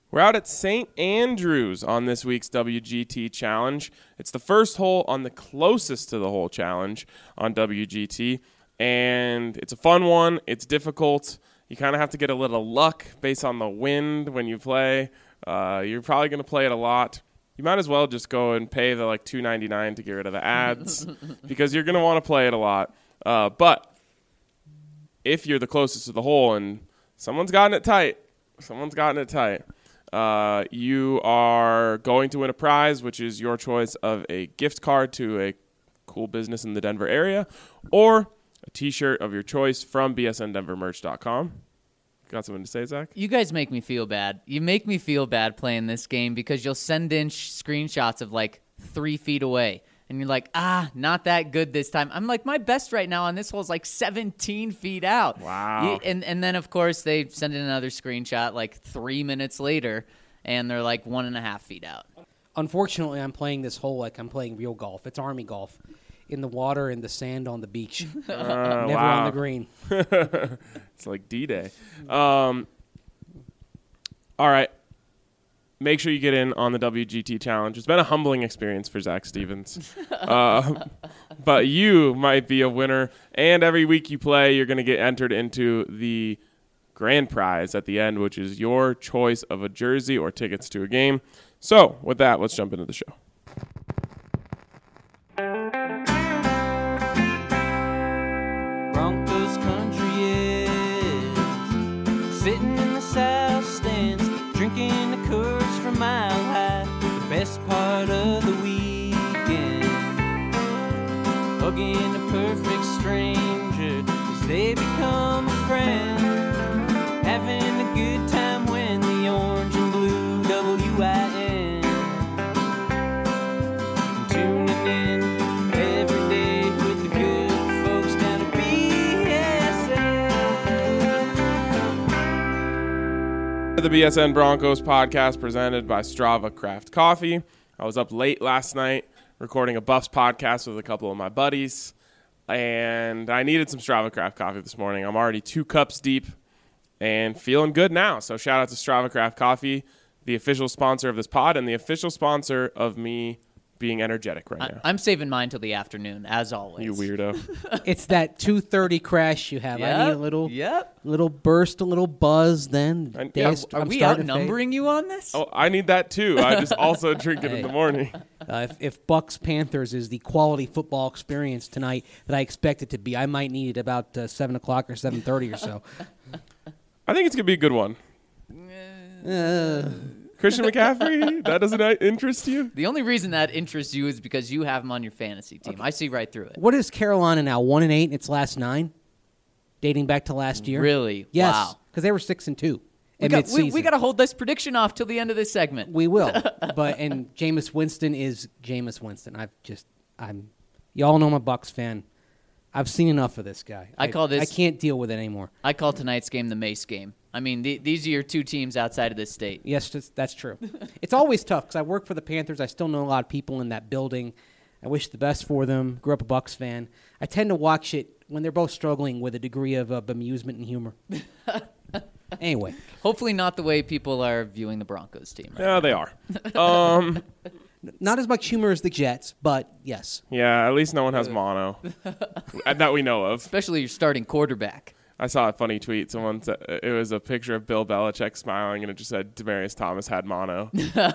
We're out at St. Andrews on this week's WGT Challenge. It's the first hole on the closest to the hole challenge on WGT, and it's a fun one. It's difficult. You kind of have to get a little luck based on the wind when you play. You're probably going to play it a lot. You might as well just go and pay the like $2.99 to get rid of the ads because you're going to want to play it a lot. But if you're the closest to the hole and someone's gotten it tight, you are going to win a prize, which is your choice of a gift card to a cool business in the Denver area or a T-shirt of your choice from bsndenvermerch.com. Got something to say, Zach? You guys make me feel bad. You make me feel bad playing this game because you'll send in screenshots of like 3 feet away. And you're like, not that good this time. I'm like, my best right now on this hole is like 17 feet out. Wow. And then, of course, they send in another screenshot like 3 minutes later, and they're like 1.5 feet out. Unfortunately, I'm playing this hole like I'm playing real golf. It's Army golf. In the water, in the sand, on the beach. Never on the green. It's like D-Day. All right. Make sure you get in on the WGT Challenge. It's been a humbling experience for Zach Stevens. But you might be a winner. And every week you play, you're going to get entered into the grand prize at the end, which is your choice of a jersey or tickets to a game. So with that, let's jump into the show. Broncos country is sitting in the south stands, drinking the Coors from Mile High. The best part of the weekend, hugging a perfect stranger as they become a friend, having a good time when the orange and blue WIN, tuning in every day with the good folks down at BSN. The BSN Broncos podcast presented by Strava Craft Coffee. I was up late last night recording a Buffs podcast with a couple of my buddies, and I needed some Strava Craft Coffee this morning. I'm already 2 cups deep and feeling good now. So shout out to Strava Craft Coffee, the official sponsor of this pod and the official sponsor of me being energetic right now. I'm saving mine till the afternoon, as always. You weirdo. It's that 2:30 crash you have. I need a little burst, a little buzz. Then Are we outnumbering you on this? Oh, I need that too. I just also drink it in the morning. If Bucks Panthers is the quality football experience tonight that I expect it to be, I might need it about 7 o'clock or 7:30 or so. I think it's going to be a good one. Christian McCaffrey, that doesn't interest you? The only reason that interests you is because you have him on your fantasy team. Okay. I see right through it. What is Carolina now, 1-8 in its last 9? Dating back to last year? Really? Yes. Wow. Because they were 6-2 at midseason. We got to hold this prediction off till the end of this segment. We will. And Jameis Winston is Jameis Winston. Y'all know I'm a Bucks fan. I've seen enough of this guy. I can't deal with it anymore. I call tonight's game the Mace game. I mean, these are your 2 teams outside of this state. Yes, that's true. It's always tough because I work for the Panthers. I still know a lot of people in that building. I wish the best for them. Grew up a Bucks fan. I tend to watch it when they're both struggling with a degree of amusement and humor. Anyway. Hopefully not the way people are viewing the Broncos team. Right yeah, they are. Not as much humor as the Jets, but yes. Yeah, at least no one has mono that we know of. Especially your starting quarterback. I saw a funny tweet. Someone said it was a picture of Bill Belichick smiling, and it just said Demaryius Thomas had mono.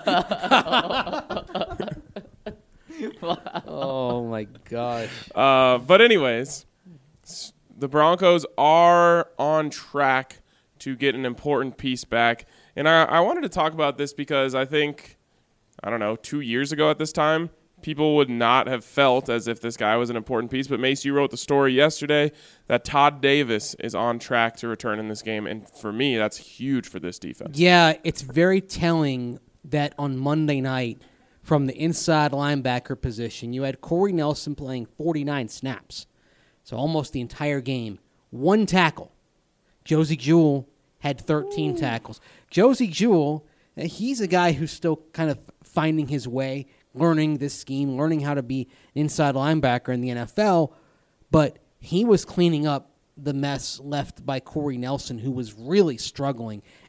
Oh, my gosh. But anyways, the Broncos are on track to get an important piece back. And I wanted to talk about this because I think, 2 years ago at this time, people would not have felt as if this guy was an important piece. But, Mace, you wrote the story yesterday that Todd Davis is on track to return in this game. And for me, that's huge for this defense. Yeah, it's very telling that on Monday night, from the inside linebacker position, you had Corey Nelson playing 49 snaps. So almost the entire game. 1 tackle. Josie Jewell had 13 tackles. Josie Jewell, he's a guy who's still kind of finding his way, learning this scheme, learning how to be an inside linebacker in the NFL, but he was cleaning up the mess left by Corey Nelson, who was really struggling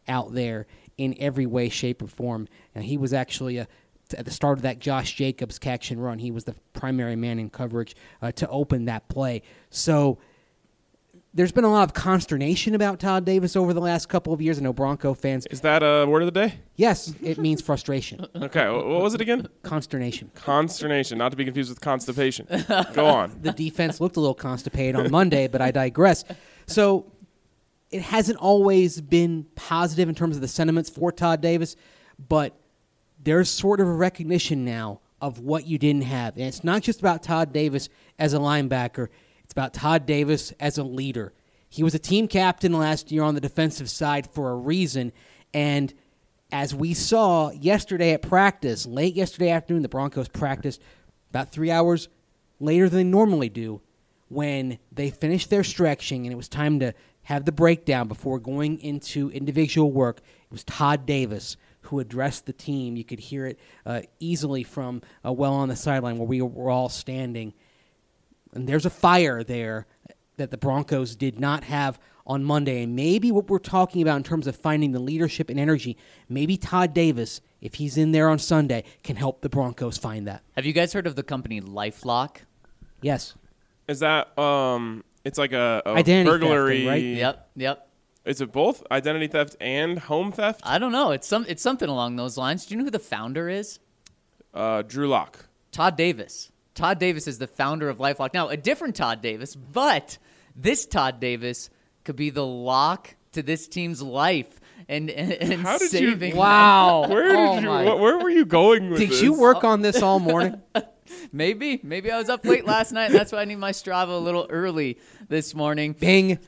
out there in every way, shape, or form. And he was actually at the start of that Josh Jacobs catch and run. He was the primary man in coverage to open that play. So there's been a lot of consternation about Todd Davis over the last couple of years. I know Bronco fans. Is that a word of the day? Yes, it means frustration. Okay, what was it again? Consternation. Consternation, not to be confused with constipation. Go on. The defense looked a little constipated on Monday, but I digress. So it hasn't always been positive in terms of the sentiments for Todd Davis, but there's sort of a recognition now of what you didn't have. And it's not just about Todd Davis as a linebacker. It's about Todd Davis as a leader. He was a team captain last year on the defensive side for a reason, and as we saw yesterday at practice, late yesterday afternoon, the Broncos practiced about 3 hours later than they normally do. When they finished their stretching and it was time to have the breakdown before going into individual work, it was Todd Davis who addressed the team. You could hear it easily from well on the sideline where we were all standing. And there's a fire there that the Broncos did not have on Monday. And maybe what we're talking about in terms of finding the leadership and energy, maybe Todd Davis, if he's in there on Sunday, can help the Broncos find that. Have you guys heard of the company LifeLock? Yes. Is that it's like a Identity burglary, thefting, right? Yep. Is it both identity theft and home theft? I don't know. It's something along those lines. Do you know who the founder is? Drew Lock. Todd Davis. Todd Davis is the founder of LifeLock. Now, a different Todd Davis, but this Todd Davis could be the lock to this team's life and How did saving. you? Wow. Where were you going with Did this? you work on this all morning? Maybe I was up late last night, and that's why I need my Strava a little early this morning. Bing.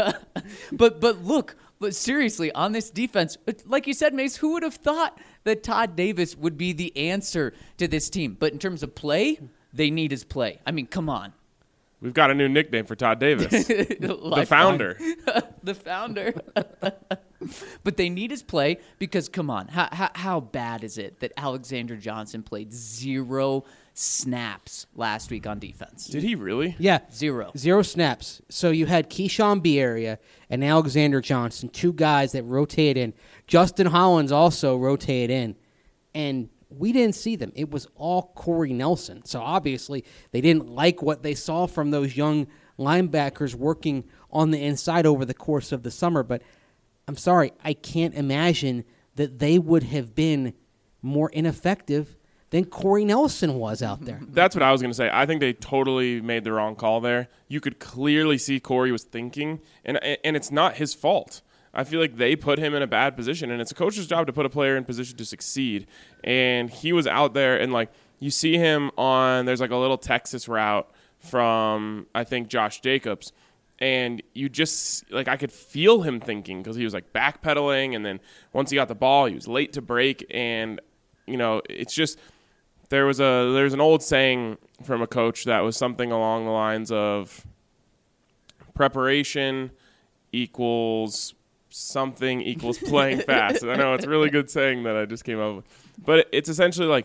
But look, seriously, on this defense, like you said, Mace, who would have thought that Todd Davis would be the answer to this team? But in terms of play, they need his play. I mean, come on. We've got a new nickname for Todd Davis. The founder. The founder. But they need his play because, come on, how bad is it that Alexander Johnson played 0 snaps last week on defense? Did he really? Yeah. 0. 0 snaps. So you had Keyshawn Bierria and Alexander Johnson, 2 guys that rotate in. Justin Hollins also rotated in. And we didn't see them. It was all Corey Nelson. So obviously they didn't like what they saw from those young linebackers working on the inside over the course of the summer. But I'm sorry, I can't imagine that they would have been more ineffective than Corey Nelson was out there. That's what I was going to say. I think they totally made the wrong call there. You could clearly see Corey was thinking, and it's not his fault. I feel like they put him in a bad position, and it's a coach's job to put a player in position to succeed. And he was out there, and, like, you see him on – there's, like, a little Texas route from, I think, Josh Jacobs. And you just – like, I could feel him thinking because he was, like, backpedaling. And then once he got the ball, he was late to break. And, you know, it's just – there's an old saying from a coach that was something along the lines of preparation equals – something equals playing fast. I know it's a really good saying that I just came up with. But it's essentially like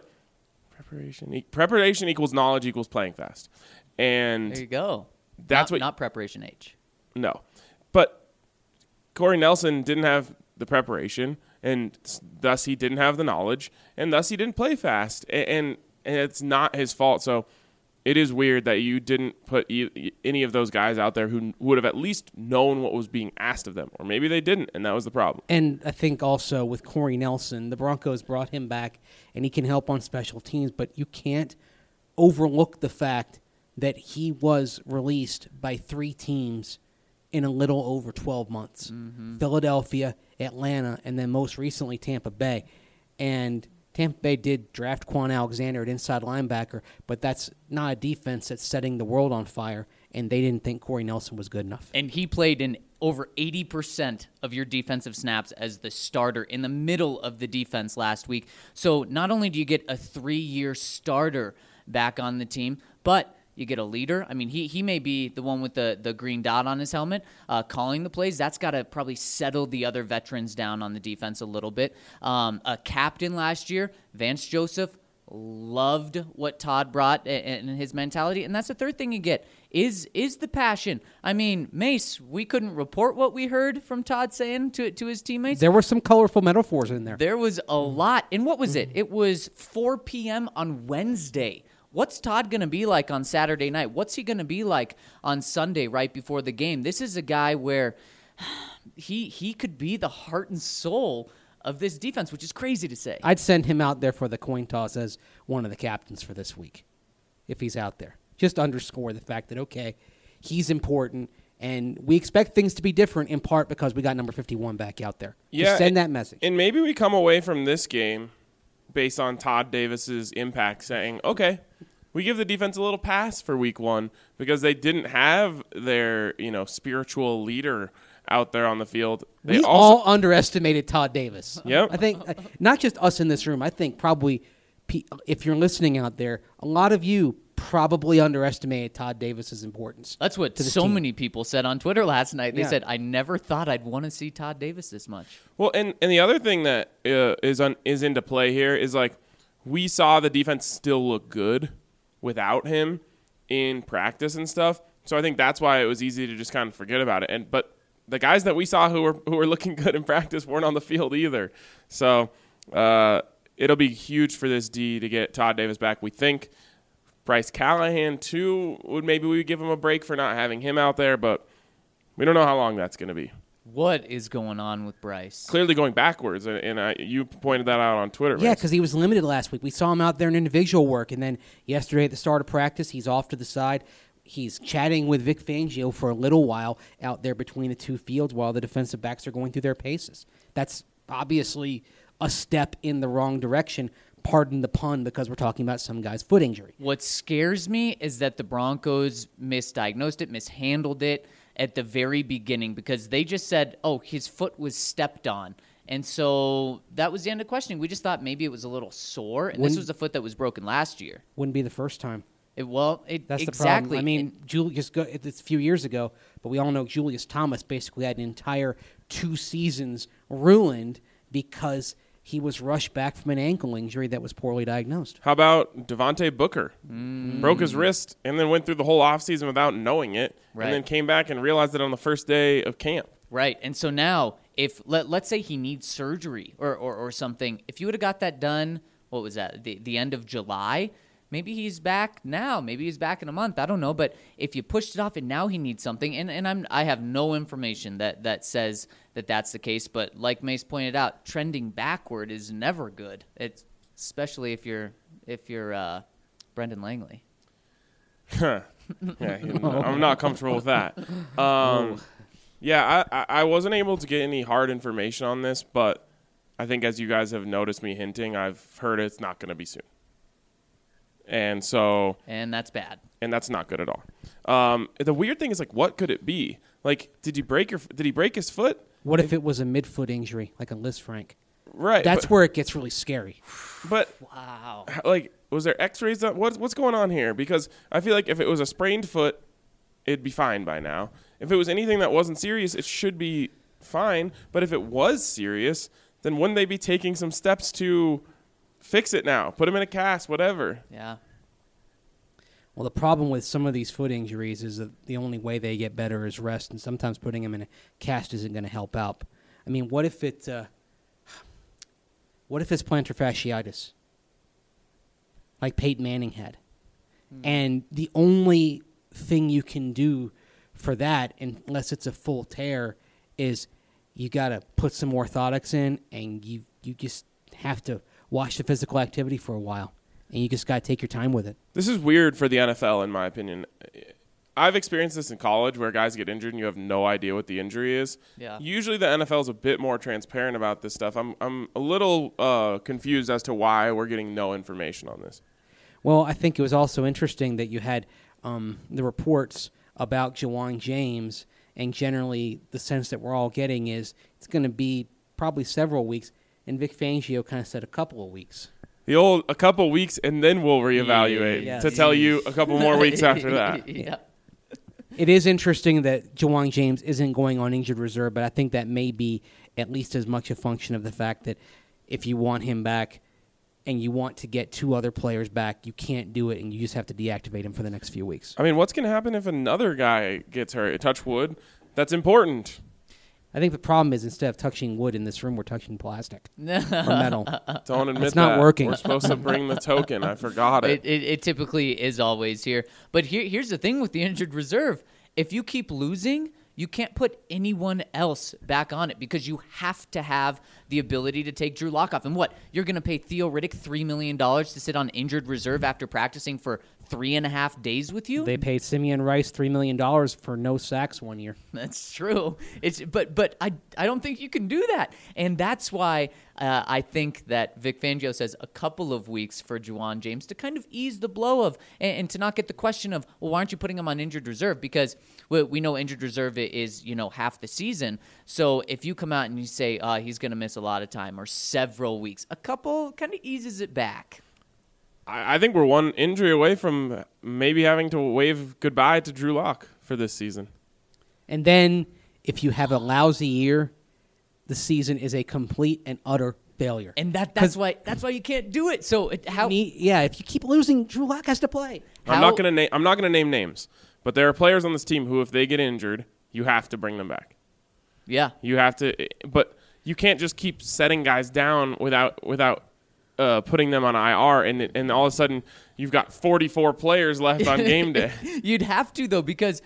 preparation equals knowledge equals playing fast. And There you go. That's not preparation H. No. But Corey Nelson didn't have the preparation, and thus he didn't have the knowledge, and thus he didn't play fast. And it's not his fault. So it is weird that you didn't put any of those guys out there who would have at least known what was being asked of them. Or maybe they didn't, and that was the problem. And I think also with Corey Nelson, the Broncos brought him back, and he can help on special teams, but you can't overlook the fact that he was released by 3 teams in a little over 12 months. Mm-hmm. Philadelphia, Atlanta, and then most recently Tampa Bay. And Tampa Bay did draft Quan Alexander at inside linebacker, but that's not a defense that's setting the world on fire, and they didn't think Corey Nelson was good enough. And he played in over 80% of your defensive snaps as the starter in the middle of the defense last week. So not only do you get a 3-year starter back on the team, but you get a leader. I mean, he may be the one with the green dot on his helmet, calling the plays. That's got to probably settle the other veterans down on the defense a little bit. A captain last year, Vance Joseph, loved what Todd brought and his mentality. And that's the third thing you get is the passion. I mean, Mace, we couldn't report what we heard from Todd saying to his teammates. There were some colorful metaphors in there. There was a lot. And what was it? It was 4 p.m. on Wednesday. What's Todd going to be like on Saturday night? What's he going to be like on Sunday right before the game? This is a guy where he could be the heart and soul of this defense, which is crazy to say. I'd send him out there for the coin toss as one of the captains for this week, if he's out there. Just underscore the fact that, okay, he's important, and we expect things to be different in part because we got number 51 back out there. Just send that message. And maybe we come away from this game based on Todd Davis's impact saying, okay, we give the defense a little pass for week 1 because they didn't have their, spiritual leader out there on the field. We all underestimated Todd Davis. Yep. I think not just us in this room. I think probably if you're listening out there, a lot of you probably underestimated Todd Davis's importance. That's what so many people said on Twitter last night. They said, I never thought I'd want to see Todd Davis this much. Well, and the other thing that is into play here is, like, we saw the defense still look good without him in practice and stuff. So I think that's why it was easy to just kind of forget about it. But the guys that we saw who were looking good in practice weren't on the field either. So it'll be huge for this D to get Todd Davis back. We think Bryce Callahan, too, maybe we would give him a break for not having him out there, but we don't know how long that's going to be. What is going on with Bryce? Clearly going backwards, and you pointed that out on Twitter. Yeah, because he was limited last week. We saw him out there in individual work, and then yesterday at the start of practice, he's off to the side. He's chatting with Vic Fangio for a little while out there between the two fields while the defensive backs are going through their paces. That's obviously a step in the wrong direction. Pardon the pun, because we're talking about some guy's foot injury. What scares me is that the Broncos misdiagnosed it, mishandled it at the very beginning because they just said, oh, his foot was stepped on. And so that was the end of questioning. We just thought maybe it was a little sore, and this was a foot that was broken last year. Wouldn't be the first time. That's exactly. the problem. I mean, it's a few years ago, but we all know Julius Thomas basically had an entire 2 seasons ruined because he was rushed back from an ankle injury that was poorly diagnosed. How about Devontae Booker? Broke his wrist and then went through the whole offseason without knowing it, and then came back and realized it on the first day of camp. Right, and so now, if let's say he needs surgery or something, if you would have got that done, what was that, the end of July, maybe he's back now. Maybe he's back in a month. I don't know. But if you pushed it off and now he needs something, and I have no information that says that that's the case. But like Mace pointed out, trending backward is never good. It's especially if you're Brendan Langley. Yeah, I'm not comfortable with that. I wasn't able to get any hard information on this, but I think as you guys have noticed me hinting, I've heard it's not going to be soon. And that's bad. And that's not good at all. The weird thing is, like, what could it be? Like, did he break his foot? What if it was a midfoot injury, like a Liz Frank? Right. That's where it gets really scary. But wow. Like, was there X-rays? What's going on here? Because I feel like if it was a sprained foot, it'd be fine by now. If it was anything that wasn't serious, it should be fine. But if it was serious, then wouldn't they be taking some steps to fix it now? Put him in a cast, whatever. Yeah. Well, the problem with some of these foot injuries is that the only way they get better is rest, and sometimes putting them in a cast isn't going to help out. I mean, what if it's plantar fasciitis, like Peyton Manning had? And the only thing you can do for that, unless it's a full tear, is you got to put some orthotics in, and you just have to watch the physical activity for a while, and you just got to take your time with it. This is weird for the NFL, in my opinion. I've experienced this in college where guys get injured and you have no idea what the injury is. Yeah. Usually the NFL is a bit more transparent about this stuff. I'm a little confused as to why we're getting no information on this. Well, I think it was also interesting that you had the reports about Ja'Wuan James, and generally the sense that we're all getting is it's going to be probably several weeks, and Vic Fangio kind of said a couple of weeks. The old a couple weeks, and then we'll reevaluate to tell you a couple more weeks after that. Yeah. It is interesting that Ja'Wuan James isn't going on injured reserve, but I think that may be at least as much a function of the fact that if you want him back, and you want to get 2 other players back, you can't do it, and you just have to deactivate him for the next few weeks. I mean, what's going to happen if another guy gets hurt? Touch wood. That's important. I think the problem is instead of touching wood in this room, we're touching plastic or metal. Don't admit It's not that. working. We're supposed to bring the token. I forgot it. It typically is always here. But here's the thing with the injured reserve. If you keep losing, you can't put anyone else back on it because you have to have the ability to take Drew Lock off. And what? You're going to pay Theo Riddick $3 million to sit on injured reserve after practicing for 3.5 days with you? They paid Simeon Rice $3 million for no sacks 1 year. That's true. But I don't think you can do that, and that's why I think that Vic Fangio says a couple of weeks for Juwan James to kind of ease the blow of and to not get the question of, well, why aren't you putting him on injured reserve? Because we know injured reserve is half the season. So if you come out and you say he's going to miss a lot of time or several weeks, a couple kind of eases it back. I think we're one injury away from maybe having to wave goodbye to Drew Lock for this season. And then if you have a lousy year, the season is a complete and utter failure. And that's why you can't do it. So if you keep losing, Drew Lock has to play. I'm not gonna name names, but there are players on this team who, if they get injured, you have to bring them back. Yeah, you have to, but you can't just keep setting guys down without putting them on IR, and all of a sudden you've got 44 players left on game day. You'd have to, though, because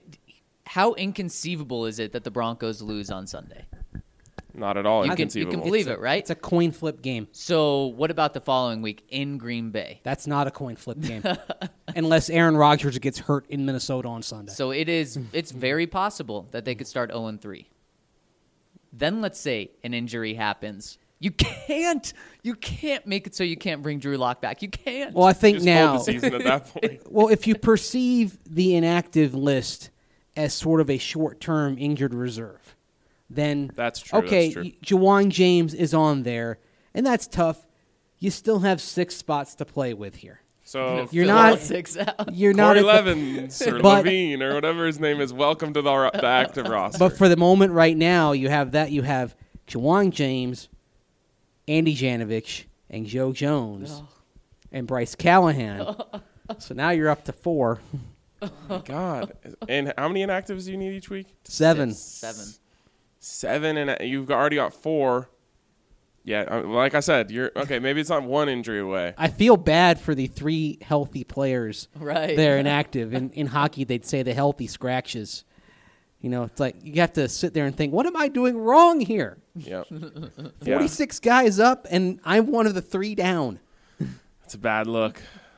how inconceivable is it that the Broncos lose on Sunday? Not at all You inconceivable. can believe it, right? It's a coin flip game. So what about the following week in Green Bay? That's not a coin flip game. Unless Aaron Rodgers gets hurt in Minnesota on Sunday. So it's very possible that they could start 0-3. Then let's say an injury happens. You can't make it so you can't bring Drew Lock back. You can't. Well, I think Just now. hold the season at that point. Well, if you perceive the inactive list as sort of a short-term injured reserve, then That's true. Okay, That's true. Juwan James is on there, and that's tough. You still have 6 spots to play with here. So You're Fill not- all 6 out. You're not Corey at the- Levins or But- Levine or whatever his name is. Welcome to the active roster. But for the moment right now, you have that. You have Juwan James, Andy Janovich, and Joe Jones, and Bryce Callahan. So now you're up to 4. God, and how many inactives do you need each week? 7. 7, and you've already got 4. Yeah, like I said, you're okay. Maybe it's not one injury away. I feel bad for the 3 healthy players Right. that are inactive. In hockey, they'd say the healthy scratches. It's like you have to sit there and think, what am I doing wrong here? Yeah, 46 guys up, and I'm one of the 3 down. it's a bad look.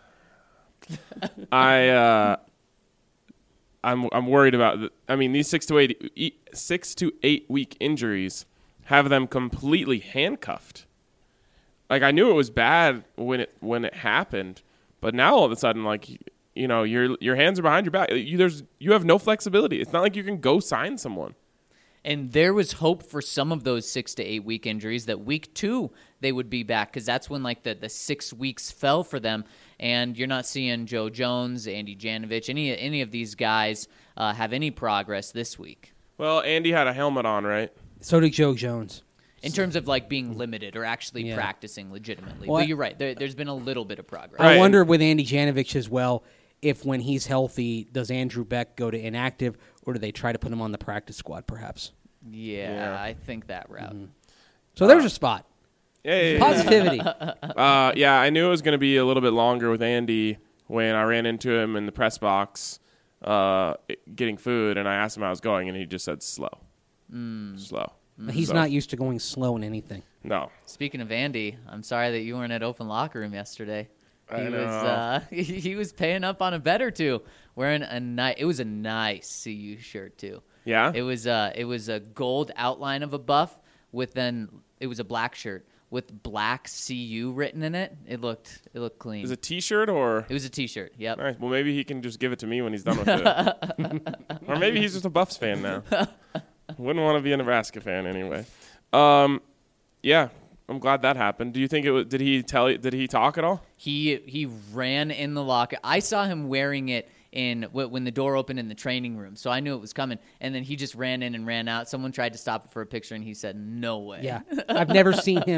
I'm worried about. These 6 to 8 week injuries have them completely handcuffed. Like, I knew it was bad when it happened, but now all of a sudden, like, your hands are behind your back. You have no flexibility. It's not like you can go sign someone. And there was hope for some of those 6 to 8 week injuries that week 2 they would be back, because that's when like the 6 weeks fell for them. And you're not seeing Joe Jones, Andy Janovich, any of these guys have any progress this week. Well, Andy had a helmet on, right? So did Joe Jones. In terms of like being limited or actually Yeah. practicing legitimately. Well, but you're right. There's been a little bit of progress. Right. I wonder with Andy Janovich as well, if when he's healthy, does Andrew Beck go to inactive, or do they try to put him on the practice squad perhaps? Yeah, I think that route. So there's a spot. Hey. Positivity. Yeah, I knew it was going to be a little bit longer with Andy when I ran into him in the press box getting food, and I asked him how I was going, and he just said slow. Slow. He's So, not used to going slow in anything. No. Speaking of Andy, I'm sorry that you weren't at Open Locker Room yesterday. I know. He was paying up on a bet or two, wearing it was a nice CU shirt too. Yeah? It was a gold outline of a buff it was a black shirt with black CU written in it. It looked clean. Is it a T-shirt or? It was a T-shirt. Yep. All right, well, maybe he can just give it to me when he's done with it. Or maybe he's just a Buffs fan now. Wouldn't want to be a Nebraska fan anyway. Yeah, I'm glad that happened. Do you think it was? Did he talk at all? He ran in the locker. I saw him wearing it when the door opened in the training room, so I knew it was coming. And then he just ran in and ran out. Someone tried to stop it for a picture, and he said, "No way." Yeah. I've never seen him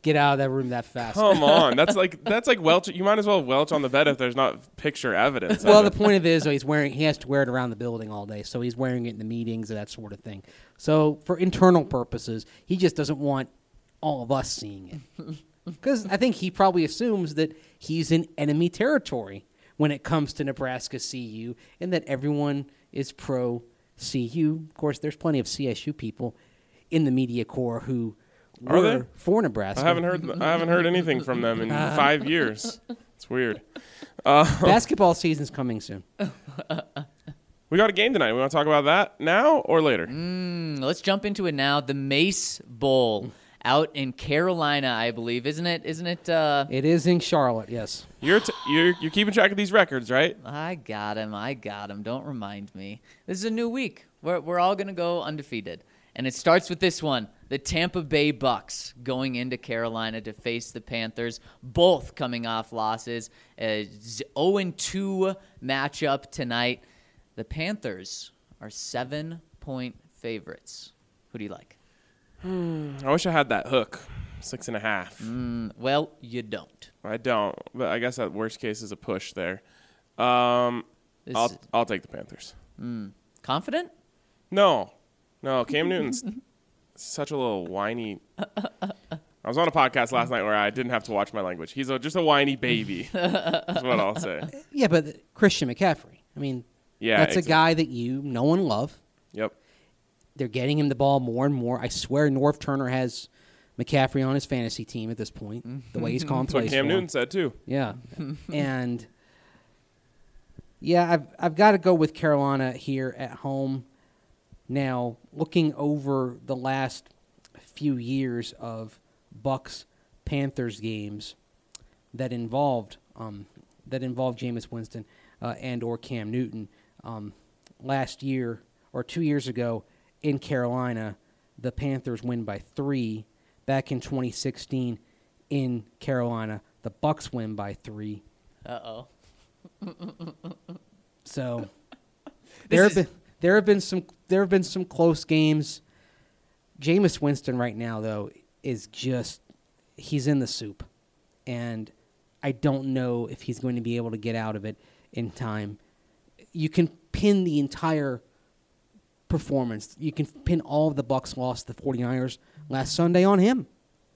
get out of that room that fast. Come on, that's like welch. You might as well welch on the bed if there's not picture evidence. Well, of the it. point of it is, though, he has to wear it around the building all day, so he's wearing it in the meetings and that sort of thing. So for internal purposes, he just doesn't want all of us seeing it. Because I think he probably assumes that he's in enemy territory when it comes to Nebraska CU and that everyone is pro CU. Of course, there's plenty of CSU people in the media corps who Are were there? for Nebraska. I haven't heard anything from them in 5 years. It's weird. Basketball season's coming soon. We got a game tonight. We want to talk about that now or later? Let's jump into it now. The Mace Bowl out in Carolina, I believe, isn't it? It is in Charlotte, yes. You're keeping track of these records, right? I got him. Don't remind me. This is a new week. We're all going to go undefeated. And it starts with this one. The Tampa Bay Bucks going into Carolina to face the Panthers, both coming off losses. 0-2 matchup tonight. The Panthers are 7-point favorites. Who do you like? I wish I had that hook, 6.5. Well, you don't. I don't, but I guess that worst case is a push there. I'll take the Panthers. Confident? No, Cam Newton's such a little whiny. I was on a podcast last night where I didn't have to watch my language. He's just a whiny baby. That's what I'll say. Yeah, but Christian McCaffrey. I mean, Yeah, that's exactly. a guy that you know and love. Yep. They're getting him the ball more and more. I swear Norv Turner has McCaffrey on his fantasy team at this point, the way he's calling That's what plays Cam for Newton him. said too. Yeah. And, yeah, I've got to go with Carolina here at home. Now, looking over the last few years of Bucks-Panthers games that involved Jameis Winston and or Cam Newton, last year or 2 years ago in Carolina, the Panthers win by 3. Back in 2016 in Carolina, the Bucks win by 3. Uh-oh. So there have been some close games. Jameis Winston right now though is just he's in the soup, and I don't know if he's going to be able to get out of it in time. You can pin the entire performance. You can pin all of the Bucks loss to the 49ers last Sunday on him.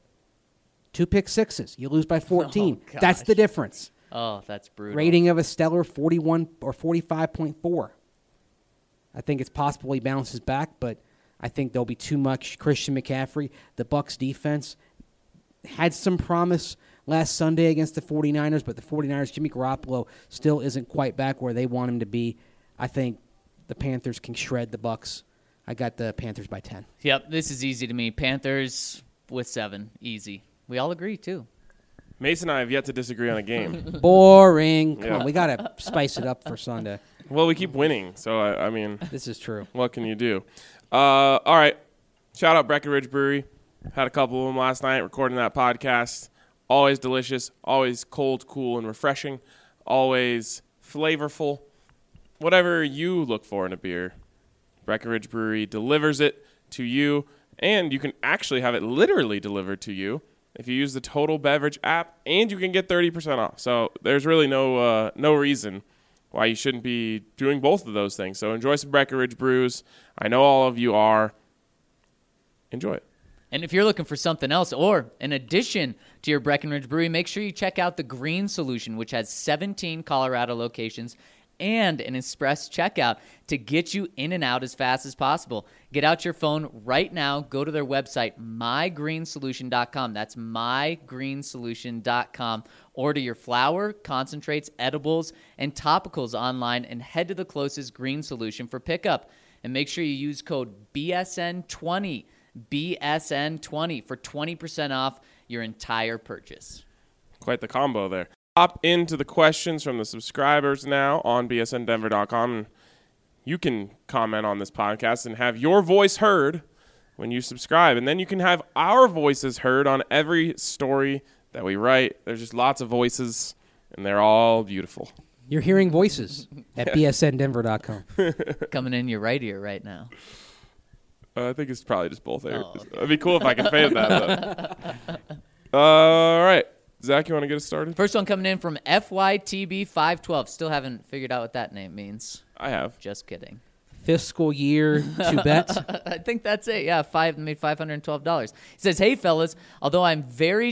2 pick sixes. You lose by 14. Oh, That's the gosh. difference. Oh, that's brutal. Rating of a stellar 41 or 45.4. I think it's possible he bounces back, but I think there'll be too much Christian McCaffrey. The Bucks defense had some promise last Sunday against the 49ers, but the 49ers, Jimmy Garoppolo, still isn't quite back where they want him to be. I think the Panthers can shred the Bucks. I got the Panthers by 10. Yep, this is easy to me. Panthers with 7. Easy. We all agree, too. Mason and I have yet to disagree on a game. Boring. Come Yeah. on, we got to spice it up for Sunday. Well, we keep winning, so I mean, This is true. what can you do? All right. Shout out Breckenridge Brewery. Had a couple of them last night recording that podcast. Always delicious, always cold, cool, and refreshing. Always flavorful. Whatever you look for in a beer, Breckenridge Brewery delivers it to you, and you can actually have it literally delivered to you if you use the Total Beverage app, and you can get 30% off. So there's really no reason why you shouldn't be doing both of those things. So enjoy some Breckenridge brews. I know all of you are. Enjoy it. And if you're looking for something else, or in addition to your Breckenridge Brewery, make sure you check out the Green Solution, which has 17 Colorado locations and an express checkout to get you in and out as fast as possible. Get out your phone right now. Go to their website, mygreensolution.com. That's mygreensolution.com. Order your flour, concentrates, edibles, and topicals online and head to the closest Green Solution for pickup. And make sure you use code BSN20, BSN20 for 20% off your entire purchase. Quite the combo there. Hop into the questions from the subscribers now on bsndenver.com. And you can comment on this podcast and have your voice heard when you subscribe. And then you can have our voices heard on every story that we write. There's just lots of voices, and they're all beautiful. You're hearing voices at bsndenver.com. Coming in your right ear right now. I think it's probably just both ears. Oh, okay. It'd be cool if I could fade that, though. All right. Zach, you want to get us started? First one coming in from FYTB512. Still haven't figured out what that name means. I have. Just kidding. Fiscal year to bet. I think that's it. Yeah, made $512. He says, "Hey fellas, although I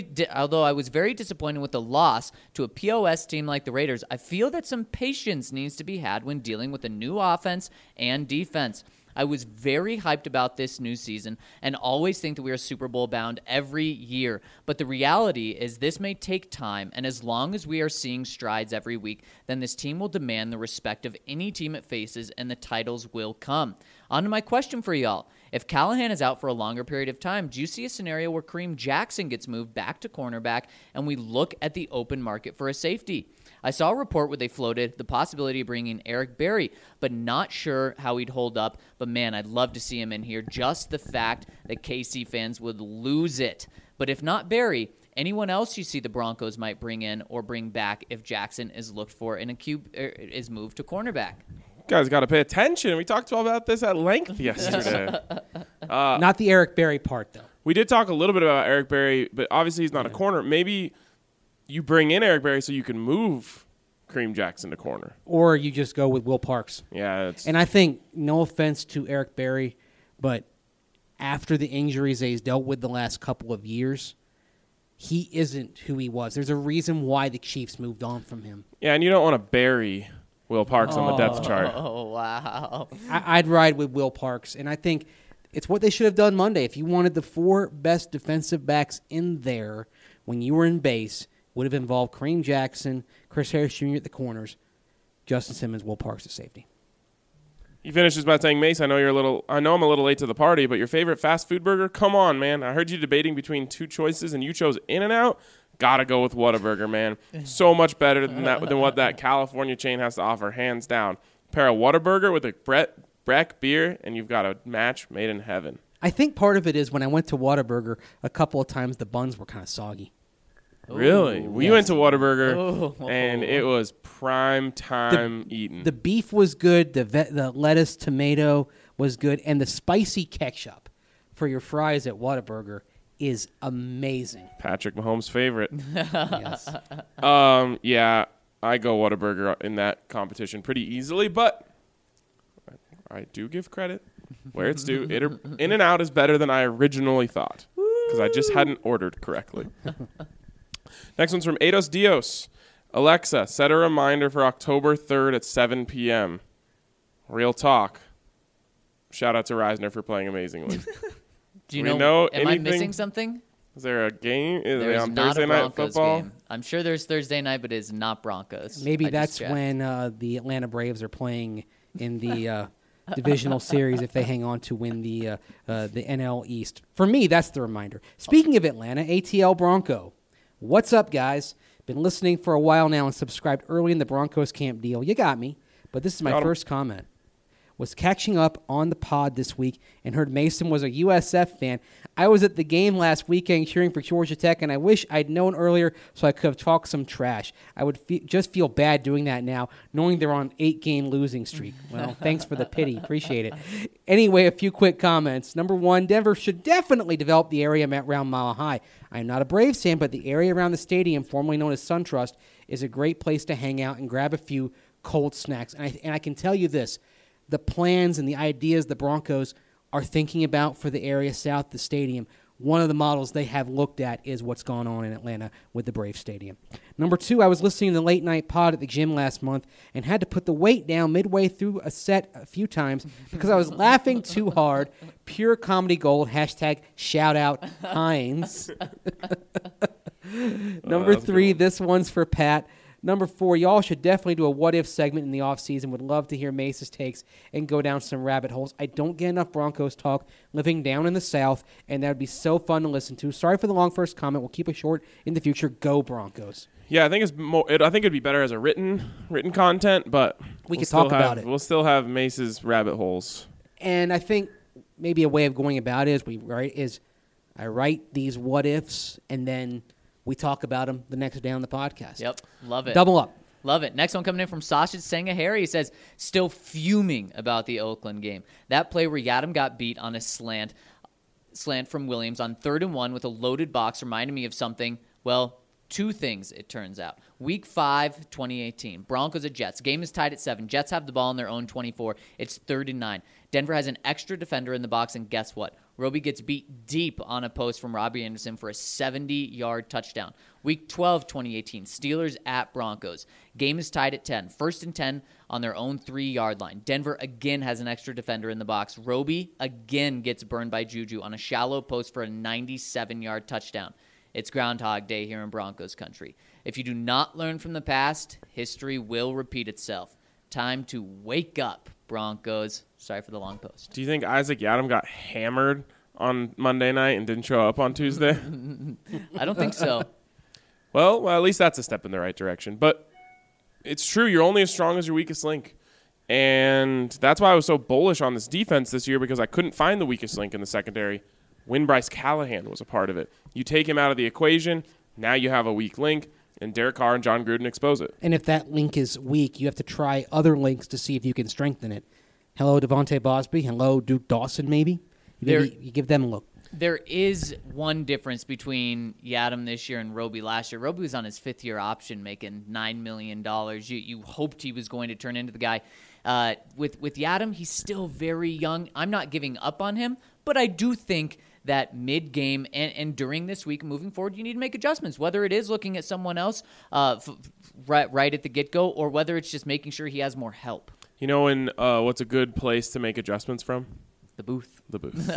was very disappointed with the loss to a POS team like the Raiders, I feel that some patience needs to be had when dealing with a new offense and defense. I was very hyped about this new season and always think that we are Super Bowl bound every year. But the reality is this may take time, and as long as we are seeing strides every week, then this team will demand the respect of any team it faces, and the titles will come. On to my question for y'all. If Callahan is out for a longer period of time, do you see a scenario where Kareem Jackson gets moved back to cornerback and we look at the open market for a safety? I saw a report where they floated the possibility of bringing Eric Berry, but not sure how he'd hold up. But man, I'd love to see him in here. Just the fact that KC fans would lose it. But if not Berry, anyone else you see the Broncos might bring in or bring back if Jackson is looked for in is moved to cornerback? You guys got to pay attention. We talked about this at length yesterday. Not the Eric Berry part, though. We did talk a little bit about Eric Berry, but obviously he's not a corner. Maybe you bring in Eric Berry so you can move Kareem Jackson to corner. Or you just go with Will Parks. Yeah. And I think, no offense to Eric Berry, but after the injuries that he's dealt with the last couple of years, he isn't who he was. There's a reason why the Chiefs moved on from him. Yeah, and you don't want to bury Will Parks on the depth chart. Oh, wow. I'd ride with Will Parks, and I think it's what they should have done Monday. If you wanted the four best defensive backs in there when you were in base, would have involved Kareem Jackson, Chris Harris Jr. at the corners, Justin Simmons, Will Parks at safety. He finishes by saying, Mace, I know I'm a little late to the party, but your favorite fast food burger? Come on, man. I heard you debating between two choices, and you chose In-N-Out. Gotta go with Whataburger, man. So much better than what that California chain has to offer, hands down. Pair a Whataburger with a Breck beer, and you've got a match made in heaven. I think part of it is when I went to Whataburger a couple of times, the buns were kind of soggy. Really? Ooh, We went to Whataburger, and it was prime time eating. The beef was good. The lettuce, tomato was good. And the spicy ketchup for your fries at Whataburger is amazing. Patrick Mahomes' favorite. Yes. Yeah, I go Whataburger in that competition pretty easily, but I do give credit where it's due. In-N-Out is better than I originally thought because I just hadn't ordered correctly. Next one's from Eidos Dios. Alexa, set a reminder for October 3rd at 7 p.m. Real talk. Shout out to Reisner for playing amazingly. Do you We know? know Am I anything? missing something? Is there a game? Is it There's on not Thursday a night Broncos football? game. I'm sure there's Thursday night, but it's not Broncos. Maybe I that's just checked. when the Atlanta Braves are playing in the divisional series if they hang on to win the NL East. For me, that's the reminder. Speaking of Atlanta, ATL Bronco. What's up, guys? Been listening for a while now and subscribed early in the Broncos camp deal. You got me. But this is my first comment. Was catching up on the pod this week and heard Mason was a USF fan. I was at the game last weekend cheering for Georgia Tech, and I wish I'd known earlier so I could have talked some trash. I would just feel bad doing that now, knowing they're on an 8-game losing streak. Well, thanks for the pity. Appreciate it. Anyway, a few quick comments. Number one, Denver should definitely develop the area around Mile High. I'm not a Braves fan, but the area around the stadium, formerly known as SunTrust, is a great place to hang out and grab a few cold snacks. And I can tell you this. The plans and the ideas the Broncos are thinking about for the area south of the stadium, one of the models they have looked at is what's gone on in Atlanta with the Braves Stadium. Number two, I was listening to the late night pod at the gym last month and had to put the weight down midway through a set a few times because I was laughing too hard. Pure comedy gold. # shout out Heinz. Number three, this one's for Pat. Number four, y'all should definitely do a what-if segment in the offseason. Would love to hear Mace's takes and go down some rabbit holes. I don't get enough Broncos talk living down in the South, and that would be so fun to listen to. Sorry for the long first comment. We'll keep it short in the future. Go Broncos. Yeah, I think I think it'd be better as a written content, but we could talk about it. We'll still have Mace's rabbit holes. And I think maybe a way of going about it is I write these what-ifs, and then we talk about them the next day on the podcast. Yep, love it. Double up. Love it. Next one coming in from Sausage Sangahari. He says, still fuming about the Oakland game. That play where Yadam got beat on a slant. slant from Williams on 3rd and 1 with a loaded box reminded me of something. Well, two things, it turns out. Week 5, 2018, Broncos at Jets. Game is tied at 7. Jets have the ball on their own 24. It's 3rd and 9. Denver has an extra defender in the box, and guess what? Roby gets beat deep on a post from Robbie Anderson for a 70-yard touchdown. Week 12, 2018, Steelers at Broncos. Game is tied at 10. 1st and 10 on their own 3-yard line. Denver again has an extra defender in the box. Roby again gets burned by Juju on a shallow post for a 97-yard touchdown. It's Groundhog Day here in Broncos country. If you do not learn from the past, history will repeat itself. Time to wake up, Broncos. Sorry for the long post. Do you think Isaac Yiadom got hammered on Monday night and didn't show up on Tuesday? I don't think so. Well, at least that's a step in the right direction. But it's true. You're only as strong as your weakest link. And that's why I was so bullish on this defense this year, because I couldn't find the weakest link in the secondary when Bryce Callahan was a part of it. You take him out of the equation, now you have a weak link, and Derek Carr and John Gruden expose it. And if that link is weak, you have to try other links to see if you can strengthen it. Hello, Devontae Bosby. Hello, Duke Dawson, maybe. You give them a look. There is one difference between Yiadom this year and Roby last year. Roby was on his 5th-year option making $9 million. You hoped he was going to turn into the guy. With Yiadom, he's still very young. I'm not giving up on him, but I do think that mid-game and during this week moving forward, you need to make adjustments, whether it is looking at someone else right at the get-go or whether it's just making sure he has more help. You know what's a good place to make adjustments from? The booth. The booth.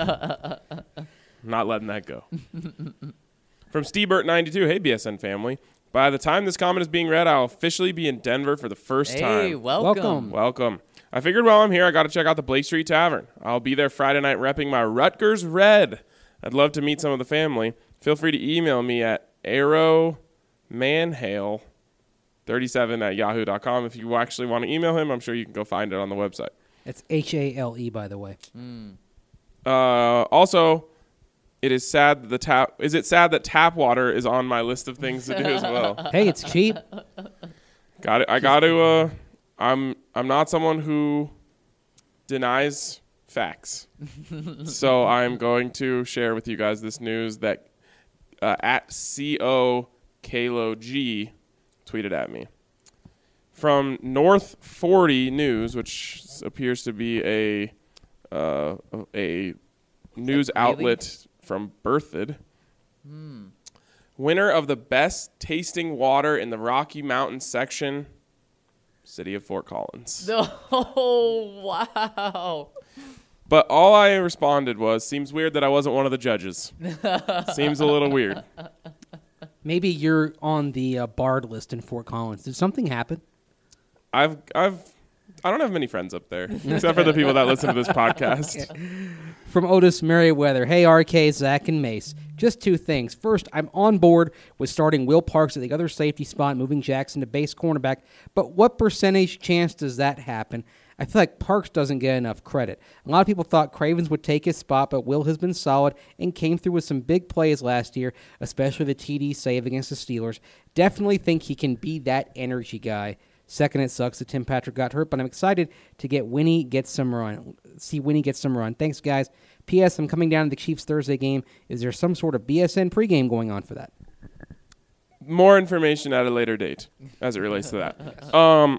Not letting that go. From Steve-Burt92, hey, BSN family. By the time this comment is being read, I'll officially be in Denver for the first time. Hey, welcome. Welcome. I figured while I'm here, I got to check out the Blake Street Tavern. I'll be there Friday night repping my Rutgers Red. I'd love to meet some of the family. Feel free to email me at arrowmanhale37@yahoo.com. If you actually want to email him, I'm sure you can go find it on the website. It's Hale, by the way. Also, it is sad that is it sad that tap water is on my list of things to do as well? Hey, it's cheap. Got it. I got to. I'm not someone who denies facts, so I'm going to share with you guys this news that at COKaloG tweeted at me from North 40 News, which appears to be a news outlet from Berthoud. Winner of the best tasting water in the Rocky Mountain section, City of Fort Collins. Oh, wow. But all I responded was, seems weird that I wasn't one of the judges. Seems a little weird. Maybe you're on the barred list in Fort Collins. Did something happen? I don't have many friends up there, except for the people that listen to this podcast. From Otis Merriweather. Hey, RK, Zach, and Mace. Just two things. First, I'm on board with starting Will Parks at the other safety spot, moving Jackson to base cornerback. But what percentage chance does that happen? I feel like Parks doesn't get enough credit. A lot of people thought Cravens would take his spot, but Will has been solid and came through with some big plays last year, especially the TD save against the Steelers. Definitely think he can be that energy guy. Second, it sucks that Tim Patrick got hurt, but I'm excited to see Winnie get some run. Thanks, guys. P.S. I'm coming down to the Chiefs Thursday game. Is there some sort of BSN pregame going on for that? More information at a later date as it relates to that.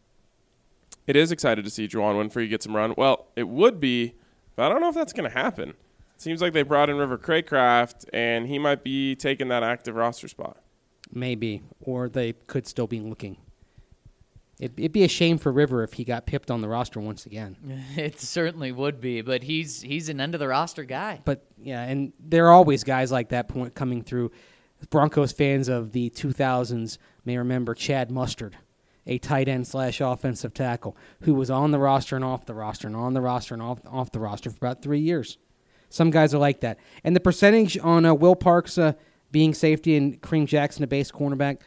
It is excited to see Juwan Winfrey get some run. Well, it would be, but I don't know if that's going to happen. It seems like they brought in River Craycraft, and he might be taking that active roster spot. Maybe, or they could still be looking. It'd be a shame for River if he got pipped on the roster once again. It certainly would be, but he's an end-of-the-roster guy. But, yeah, and there are always guys like that point coming through. Broncos fans of the 2000s may remember Chad Mustard, a tight end / offensive tackle, who was on the roster and off the roster and on the roster and off the roster for about 3 years. Some guys are like that. And the percentage on Will Parks being safety and Kareem Jackson a base cornerback,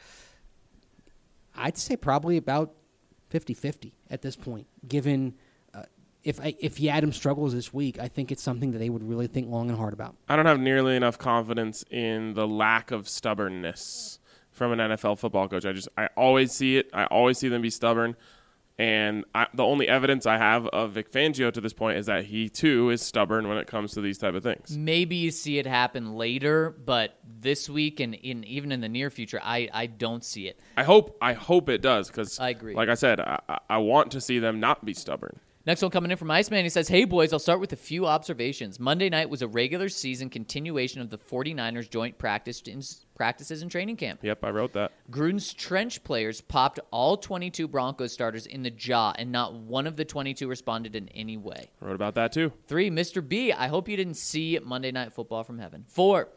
I'd say probably about 50-50 at this point, given if Yiadom struggles this week, I think it's something that they would really think long and hard about. I don't have nearly enough confidence in the lack of stubbornness from an NFL football coach. I always see it. I always see them be stubborn. And the only evidence I have of Vic Fangio to this point is that he, too, is stubborn when it comes to these type of things. Maybe you see it happen later, but this week and even in the near future, I don't see it. I hope it does because, I agree. like I said, I want to see them not be stubborn. Next one coming in from Iceman. He says, hey, boys, I'll start with a few observations. Monday night was a regular season continuation of the 49ers joint practices and training camp. Yep, I wrote that. Gruden's trench players popped all 22 Broncos starters in the jaw, and not one of the 22 responded in any way. I wrote about that, too. 3, Mr. B, I hope you didn't see Monday Night Football from heaven. 4,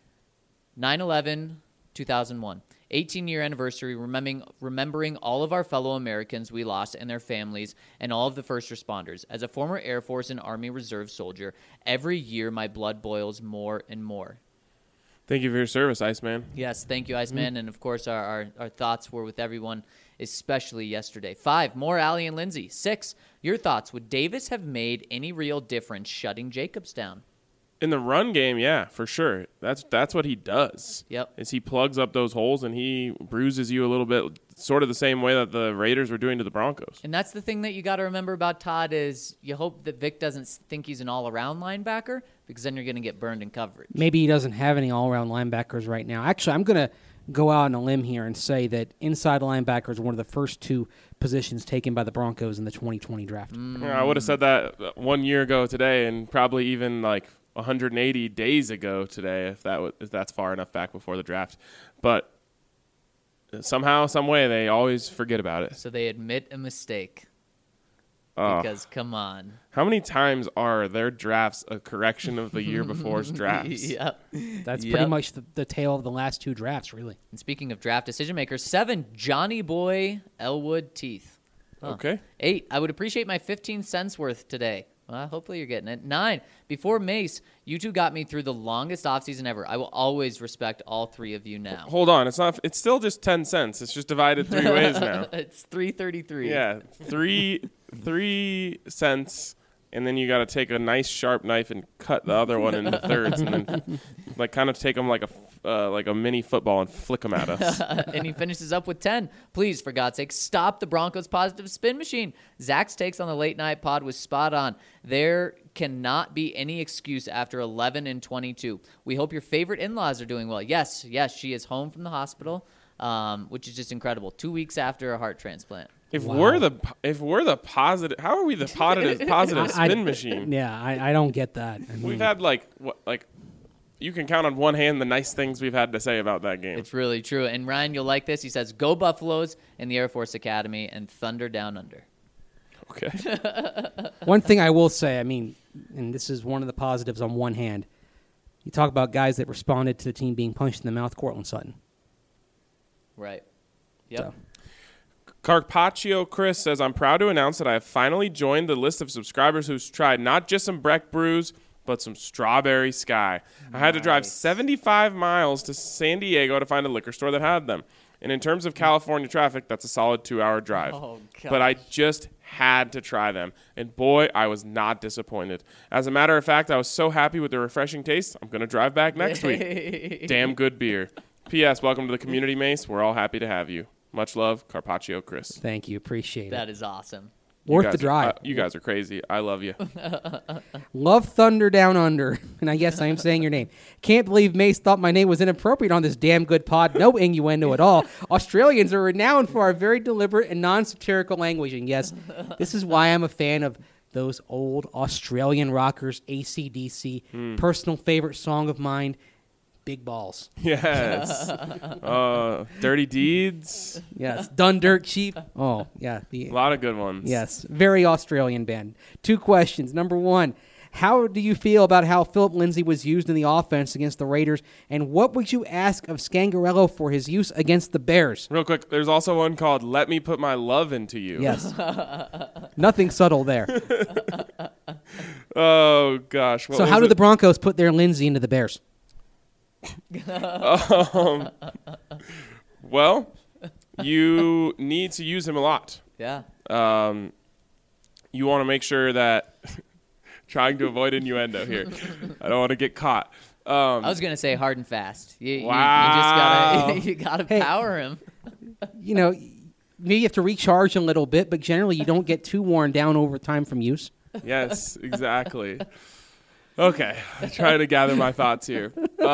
9/11/2001. 18-year anniversary, remembering all of our fellow Americans we lost and their families and all of the first responders. As a former Air Force and Army Reserve soldier, every year my blood boils more and more. Thank you for your service, Iceman. Yes, thank you, Iceman. And, of course, our thoughts were with everyone, especially yesterday. 5, more Allie and Lindsay. 6, your thoughts. Would Davis have made any real difference shutting Jacobs down? In the run game, yeah, for sure. That's what he does. Yep. Is he plugs up those holes and he bruises you a little bit, sort of the same way that the Raiders were doing to the Broncos. And that's the thing that you got to remember about Todd is you hope that Vic doesn't think he's an all-around linebacker because then you're going to get burned in coverage. Maybe he doesn't have any all-around linebackers right now. Actually, I'm going to go out on a limb here and say that inside linebacker is one of the first 2 positions taken by the Broncos in the 2020 draft. Yeah, I would have said that 1 year ago today and probably even like 180 days ago today, if that's far enough back before the draft. But somehow, some way, they always forget about it. So they admit a mistake. Oh. Because, come on. How many times are their drafts a correction of the year before's drafts? Yep. That's pretty much the tale of the last 2 drafts, really. And speaking of draft decision makers, 7, Johnny Boy Elwood Teeth. Huh. Okay. 8, I would appreciate my 15 cents worth today. Well, hopefully you're getting it. 9, before Mace, you 2 got me through the longest offseason ever. I will always respect all 3 of you now. Hold on. It's still just 10 cents. It's just divided 3 ways now. It's $3.33. Yeah. 3 cents. And then you got to take a nice sharp knife and cut the other one into thirds, and then like kind of take them like a mini football and flick them at us. And he finishes up with 10. Please, for God's sake, stop the Broncos' positive spin machine. Zach's takes on the late night pod was spot on. There cannot be any excuse after 11-22. We hope your favorite in-laws are doing well. Yes, she is home from the hospital, which is just incredible. 2 weeks after a heart transplant. If we're the positive, how are we the positive spin machine? Yeah, I don't get that. I mean, We've had like you can count on one hand the nice things we've had to say about that game. It's really true. And Ryan, you'll like this. He says, "Go Buffaloes in the Air Force Academy and Thunder Down Under." Okay. one thing I will say, I mean, and this is one of the positives on one hand, you talk about guys that responded to the team being punched in the mouth, Cortland Sutton. Right. Yep. So. Carpaccio Chris says, I'm proud to announce that I have finally joined the list of subscribers who's tried not just some Breck brews, but some Strawberry Sky. I had to drive 75 miles to San Diego to find a liquor store that had them. And in terms of California traffic, that's a solid 2-hour drive. Oh, but I just had to try them. And boy, I was not disappointed. As a matter of fact, I was so happy with the refreshing taste, I'm going to drive back next week. Damn good beer. P.S. Welcome to the community, Mace. We're all happy to have you. Much love, Carpaccio Chris. Thank you. Appreciate it. That is awesome. Worth the drive. You guys are crazy. I love you. Love Thunder Down Under. And I guess I am saying your name. Can't believe Mace thought my name was inappropriate on this damn good pod. No innuendo at all. Australians are renowned for our very deliberate and non-satirical language. And yes, this is why I'm a fan of those old Australian rockers, AC/DC. Personal favorite song of mine, Big Balls. Yes. Dirty Deeds. Yes. Done Dirt Cheap. Oh, yeah. A lot of good ones. Yes. Very Australian band. 2 questions. Number 1, how do you feel about how Philip Lindsay was used in the offense against the Raiders? And what would you ask of Scangarello for his use against the Bears? Real quick, there's also one called Let Me Put My Love Into You. Yes. Nothing subtle there. Oh, gosh. So how do the Broncos put their Lindsay into the Bears? Well, you need to use him a lot. Yeah. You want to make sure that trying to avoid innuendo here. I don't want to get caught. I was gonna say hard and fast. You Wow. just gotta power him. You know, Maybe you have to recharge a little bit, but generally you don't get too worn down over time from use. Yes, exactly. Okay, I'm trying to gather my thoughts here.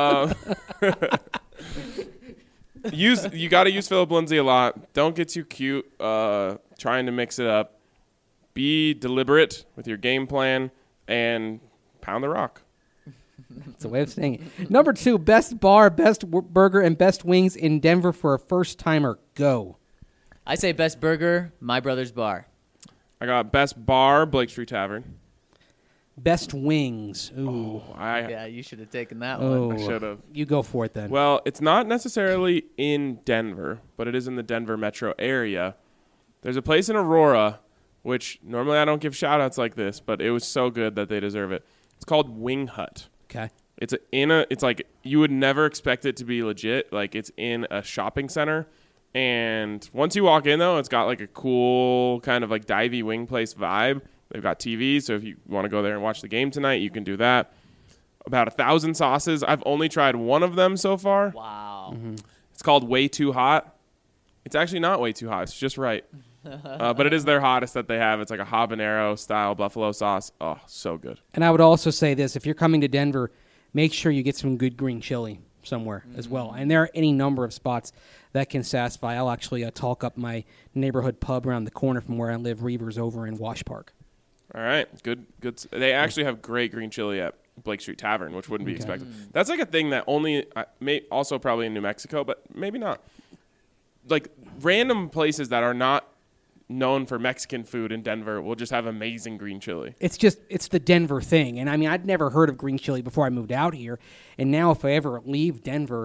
You got to use Philip Lindsay a lot. Don't get too cute trying to mix it up. Be deliberate with your game plan and pound the rock. That's a way of saying it. Number 2, best bar, best burger, and best wings in Denver for a first-timer. Go. I say best burger, My Brother's Bar. I got best bar, Blake Street Tavern. Best wings. Ooh. Yeah, you should have taken that Oh. one. I should have. You go for it then. Well, it's not necessarily in Denver, but it is in the Denver metro area. There's a place in Aurora, which normally I don't give shout-outs like this, but it was so good that they deserve it. It's called Wing Hut. Okay. It's like you would never expect it to be legit. Like it's in a shopping center. And once you walk in, though, it's got like a cool kind of like divey wing place vibe. They've got TVs, so if you want to go there and watch the game tonight, you can do that. About 1,000 sauces. I've only tried one of them so far. Wow. Mm-hmm. It's called Way Too Hot. It's actually not way too hot. It's just right. But it is their hottest that they have. It's like a habanero style buffalo sauce. Oh, so good. And I would also say this. If you're coming to Denver, make sure you get some good green chili somewhere as well. And there are any number of spots that can satisfy. I'll actually talk up my neighborhood pub around the corner from where I live, Reavers, over in Wash Park. All right. Good. They actually have great green chili at Blake Street Tavern, which wouldn't be expected. That's like a thing that only may also probably in New Mexico, but maybe not. Like random places that are not known for Mexican food in Denver will just have amazing green chili. It's the Denver thing. And I mean, I'd never heard of green chili before I moved out here. And now if I ever leave Denver,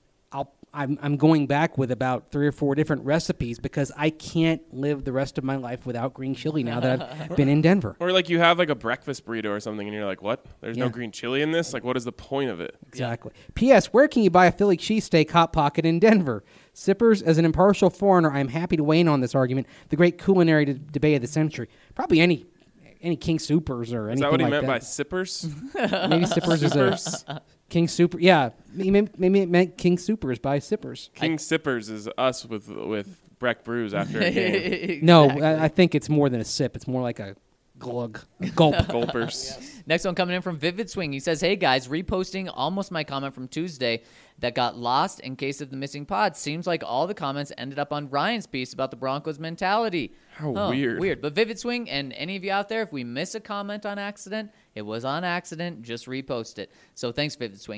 I'm going back with about 3 or 4 different recipes because I can't live the rest of my life without green chili now that I've been in Denver. Or like you have like a breakfast burrito or something and you're like, what? There's no Yeah. green chili in this? Like what is the point of it? Exactly. P.S. Where can you buy a Philly cheesesteak Hot Pocket in Denver? Sippers, as an impartial foreigner, I'm happy to weigh in on this argument. The great culinary debate of the century. Probably any King Supers or anything like that. Is that what he meant by sippers? Maybe Sippers is a King Super. Yeah, maybe it meant King Supers by Sippers. King Sippers is us with Breck Brews after a game. No, I think it's more than a sip. It's more like a glug, a gulp. Gulpers. Next one coming in from Vivid Swing. He says, hey, guys, reposting almost my comment from Tuesday that got lost in case of the missing pod. Seems like all the comments ended up on Ryan's piece about the Broncos mentality. How weird. Weird. But Vivid Swing and any of you out there, if we miss a comment on accident, it was on accident. Just repost it. So thanks, Vivid Swing.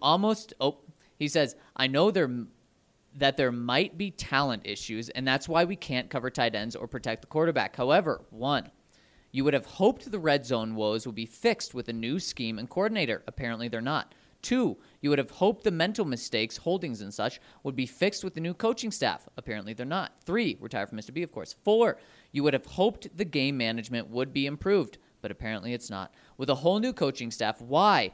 He says, I know that there might be talent issues, and that's why we can't cover tight ends or protect the quarterback. However, 1, you would have hoped the red zone woes would be fixed with a new scheme and coordinator. Apparently they're not. 2, you would have hoped the mental mistakes, holdings and such, would be fixed with the new coaching staff. Apparently they're not. 3, retired from Mr. B, of course. 4, you would have hoped the game management would be improved, but apparently it's not. With a whole new coaching staff, why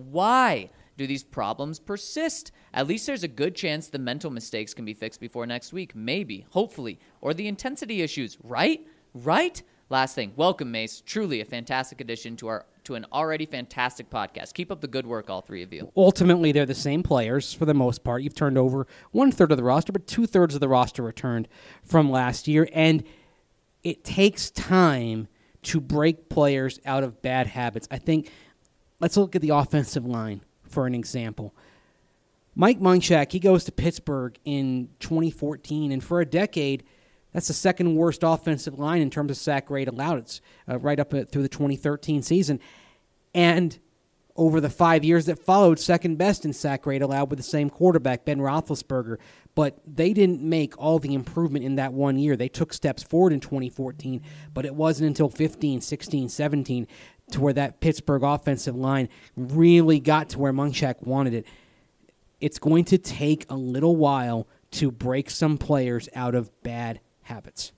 do these problems persist? At least there's a good chance the mental mistakes can be fixed before next week. Maybe, hopefully. Or the intensity issues, right? Right? Last thing, welcome, Mace. Truly a fantastic addition to an already fantastic podcast. Keep up the good work, all 3 of you. Ultimately, they're the same players for the most part. You've turned over 1/3 of the roster, but 2/3 of the roster returned from last year. And it takes time to break players out of bad habits. I think, let's look at the offensive line for an example. Mike Munchak, he goes to Pittsburgh in 2014, and for a decade, that's the second worst offensive line in terms of sack rate allowed. It's right up through the 2013 season. And over the 5 years that followed, second best in sack rate allowed with the same quarterback, Ben Roethlisberger. But they didn't make all the improvement in that 1 year. They took steps forward in 2014, but it wasn't until 15, 16, 17 to where that Pittsburgh offensive line really got to where Munchak wanted it. It's going to take a little while to break some players out of bad habits.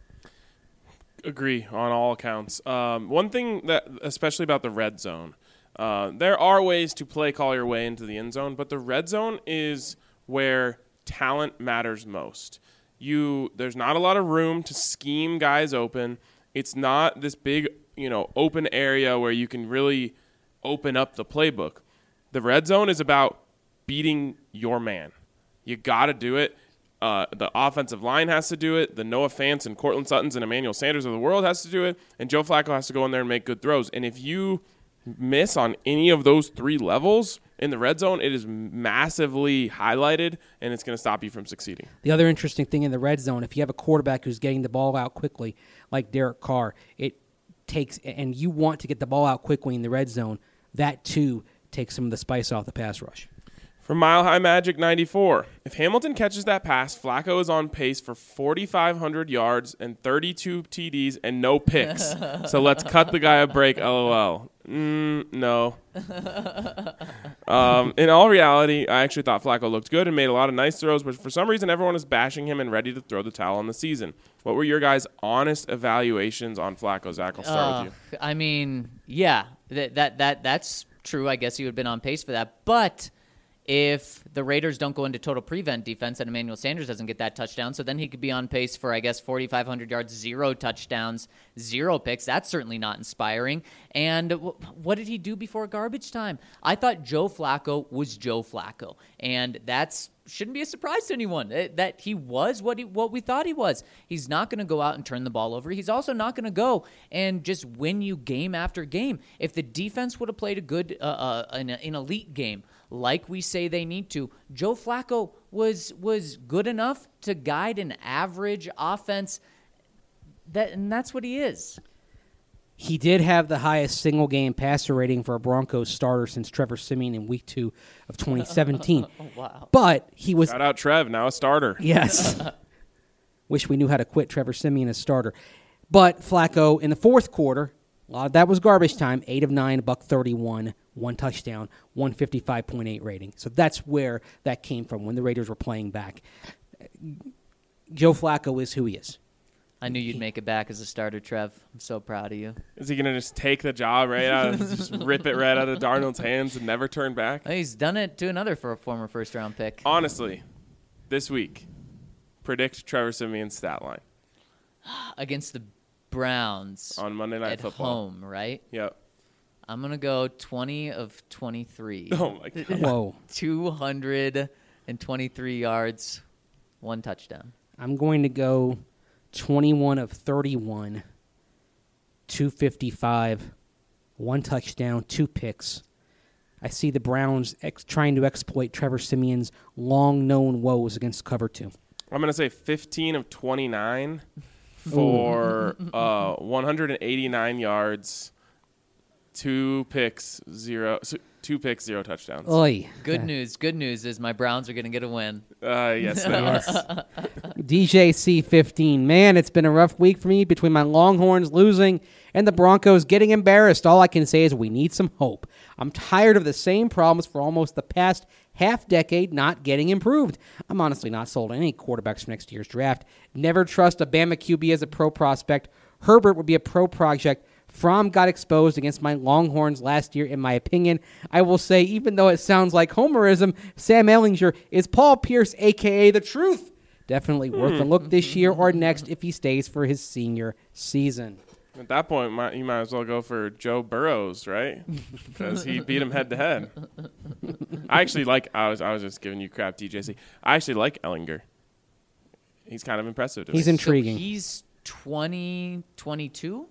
Agree on all accounts. One thing that, especially about the red zone, there are ways to play call your way into the end zone, but the red zone is where talent matters most. There's not a lot of room to scheme guys open. It's not this big, open area where you can really open up the playbook. The red zone is about beating your man. You got to do it. The offensive line has to do it. The Noah Fants and Cortland Suttons and Emmanuel Sanders of the world has to do it. And Joe Flacco has to go in there and make good throws. And if you miss on any of those 3 levels in the red zone, it is massively highlighted, and it's going to stop you from succeeding. The other interesting thing in the red zone, if you have a quarterback who's getting the ball out quickly, like Derek Carr, it takes, and you want to get the ball out quickly in the red zone, that too takes some of the spice off the pass rush. For Mile High Magic 94, if Hamilton catches that pass, Flacco is on pace for 4,500 yards and 32 TDs and no picks. So let's cut the guy a break, LOL. No. In all reality, I actually thought Flacco looked good and made a lot of nice throws, but for some reason everyone is bashing him and ready to throw the towel on the season. What were your guys' honest evaluations on Flacco? Zach, I'll start with you. I mean, yeah, that's true. I guess he would have been on pace for that, but if the Raiders don't go into total prevent defense and Emmanuel Sanders doesn't get that touchdown, so then he could be on pace for, I guess, 4,500 yards, 0 touchdowns, 0 picks. That's certainly not inspiring. And what did he do before garbage time? I thought Joe Flacco was Joe Flacco, and that's shouldn't be a surprise to anyone that he was what we thought he was. He's not going to go out and turn the ball over. He's also not going to go and just win you game after game. If the defense would have played a good an elite game, like we say they need to, Joe Flacco was good enough to guide an average offense, and that's what he is. He did have the highest single-game passer rating for a Broncos starter since Trevor Siemian in Week 2 of 2017. Oh, wow. But he was... Shout out Trev, now a starter. Yes. Wish we knew how to quit Trevor Siemian as starter. But Flacco, in the fourth quarter, a lot of that was garbage time, 8 of 9, $131, 1 touchdown, 155.8 rating. So that's where that came from when the Raiders were playing back. Joe Flacco is who he is. I knew you'd make it back as a starter, Trev. I'm so proud of you. Is he going to just take the job right out, just rip it right out of Darnold's hands and never turn back? He's done it to another for a former first-round pick. Honestly, this week, predict Trevor Siemian's stat line. Against the Browns. On Monday Night at Football. Home, right? Yep. I'm going to go 20 of 23. Oh, my God. Whoa. 223 yards, 1 touchdown. I'm going to go 21 of 31, 255, 1 touchdown, 2 picks. I see the Browns trying to exploit Trevor Siemian's long-known woes against cover 2. I'm going to say 15 of 29 for 189 yards, 2 picks, 0 touchdowns. Oy. Good news is my Browns are going to get a win. Yes, they are. DJC 15. Man, it's been a rough week for me between my Longhorns losing and the Broncos getting embarrassed. All I can say is we need some hope. I'm tired of the same problems for almost the past half-decade not getting improved. I'm honestly not sold on any quarterbacks for next year's draft. Never trust a Bama QB as a pro prospect. Herbert would be a pro project. Fromm got exposed against my Longhorns last year, in my opinion. I will say, even though it sounds like homerism, Sam Ehlinger is Paul Pierce, a.k.a. the truth. Definitely worth a look this year or next if he stays for his senior season. At that point, you might as well go for Joe Burrows, right? Because he beat him head-to-head. I actually like – I was just giving you crap, DJC. I actually like Ehlinger. He's kind of impressive to me. He's intriguing. So he's 2022?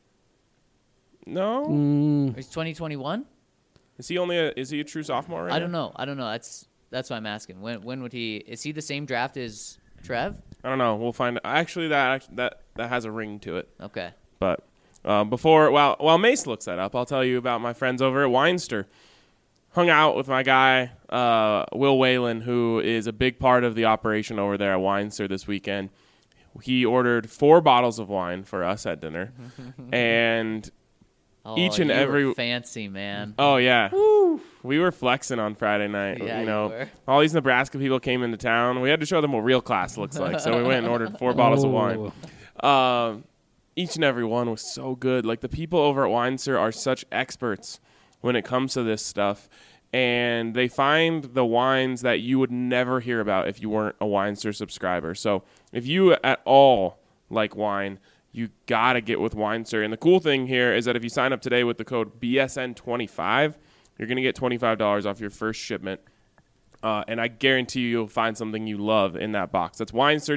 No? Or he's 2021? Is he a true sophomore right I don't know. That's what I'm asking. When would he – is he the same draft as Trev? I don't know. We'll find – actually, that has a ring to it. Okay. But while Mace looks that up, I'll tell you about my friends over at Weinster. Hung out with my guy, Will Whalen, who is a big part of the operation over there at Weinster this weekend. He ordered 4 bottles of wine for us at dinner. And each and every... were fancy, man. Oh, yeah. Woo. We were flexing on Friday night. Yeah, you know, you were. all these Nebraska people came into town. We had to show them what real class looks like. So we went and ordered 4 bottles of wine. Each and every one was so good. Like, the people over at Weinster are such experts when it comes to this stuff. And they find the wines that you would never hear about if you weren't a Weinster subscriber. So if you at all like wine, you got to get with Weinster. And the cool thing here is that if you sign up today with the code BSN25, you're going to get $25 off your first shipment. And I guarantee you'll find something you love in that box. That's Winestyr,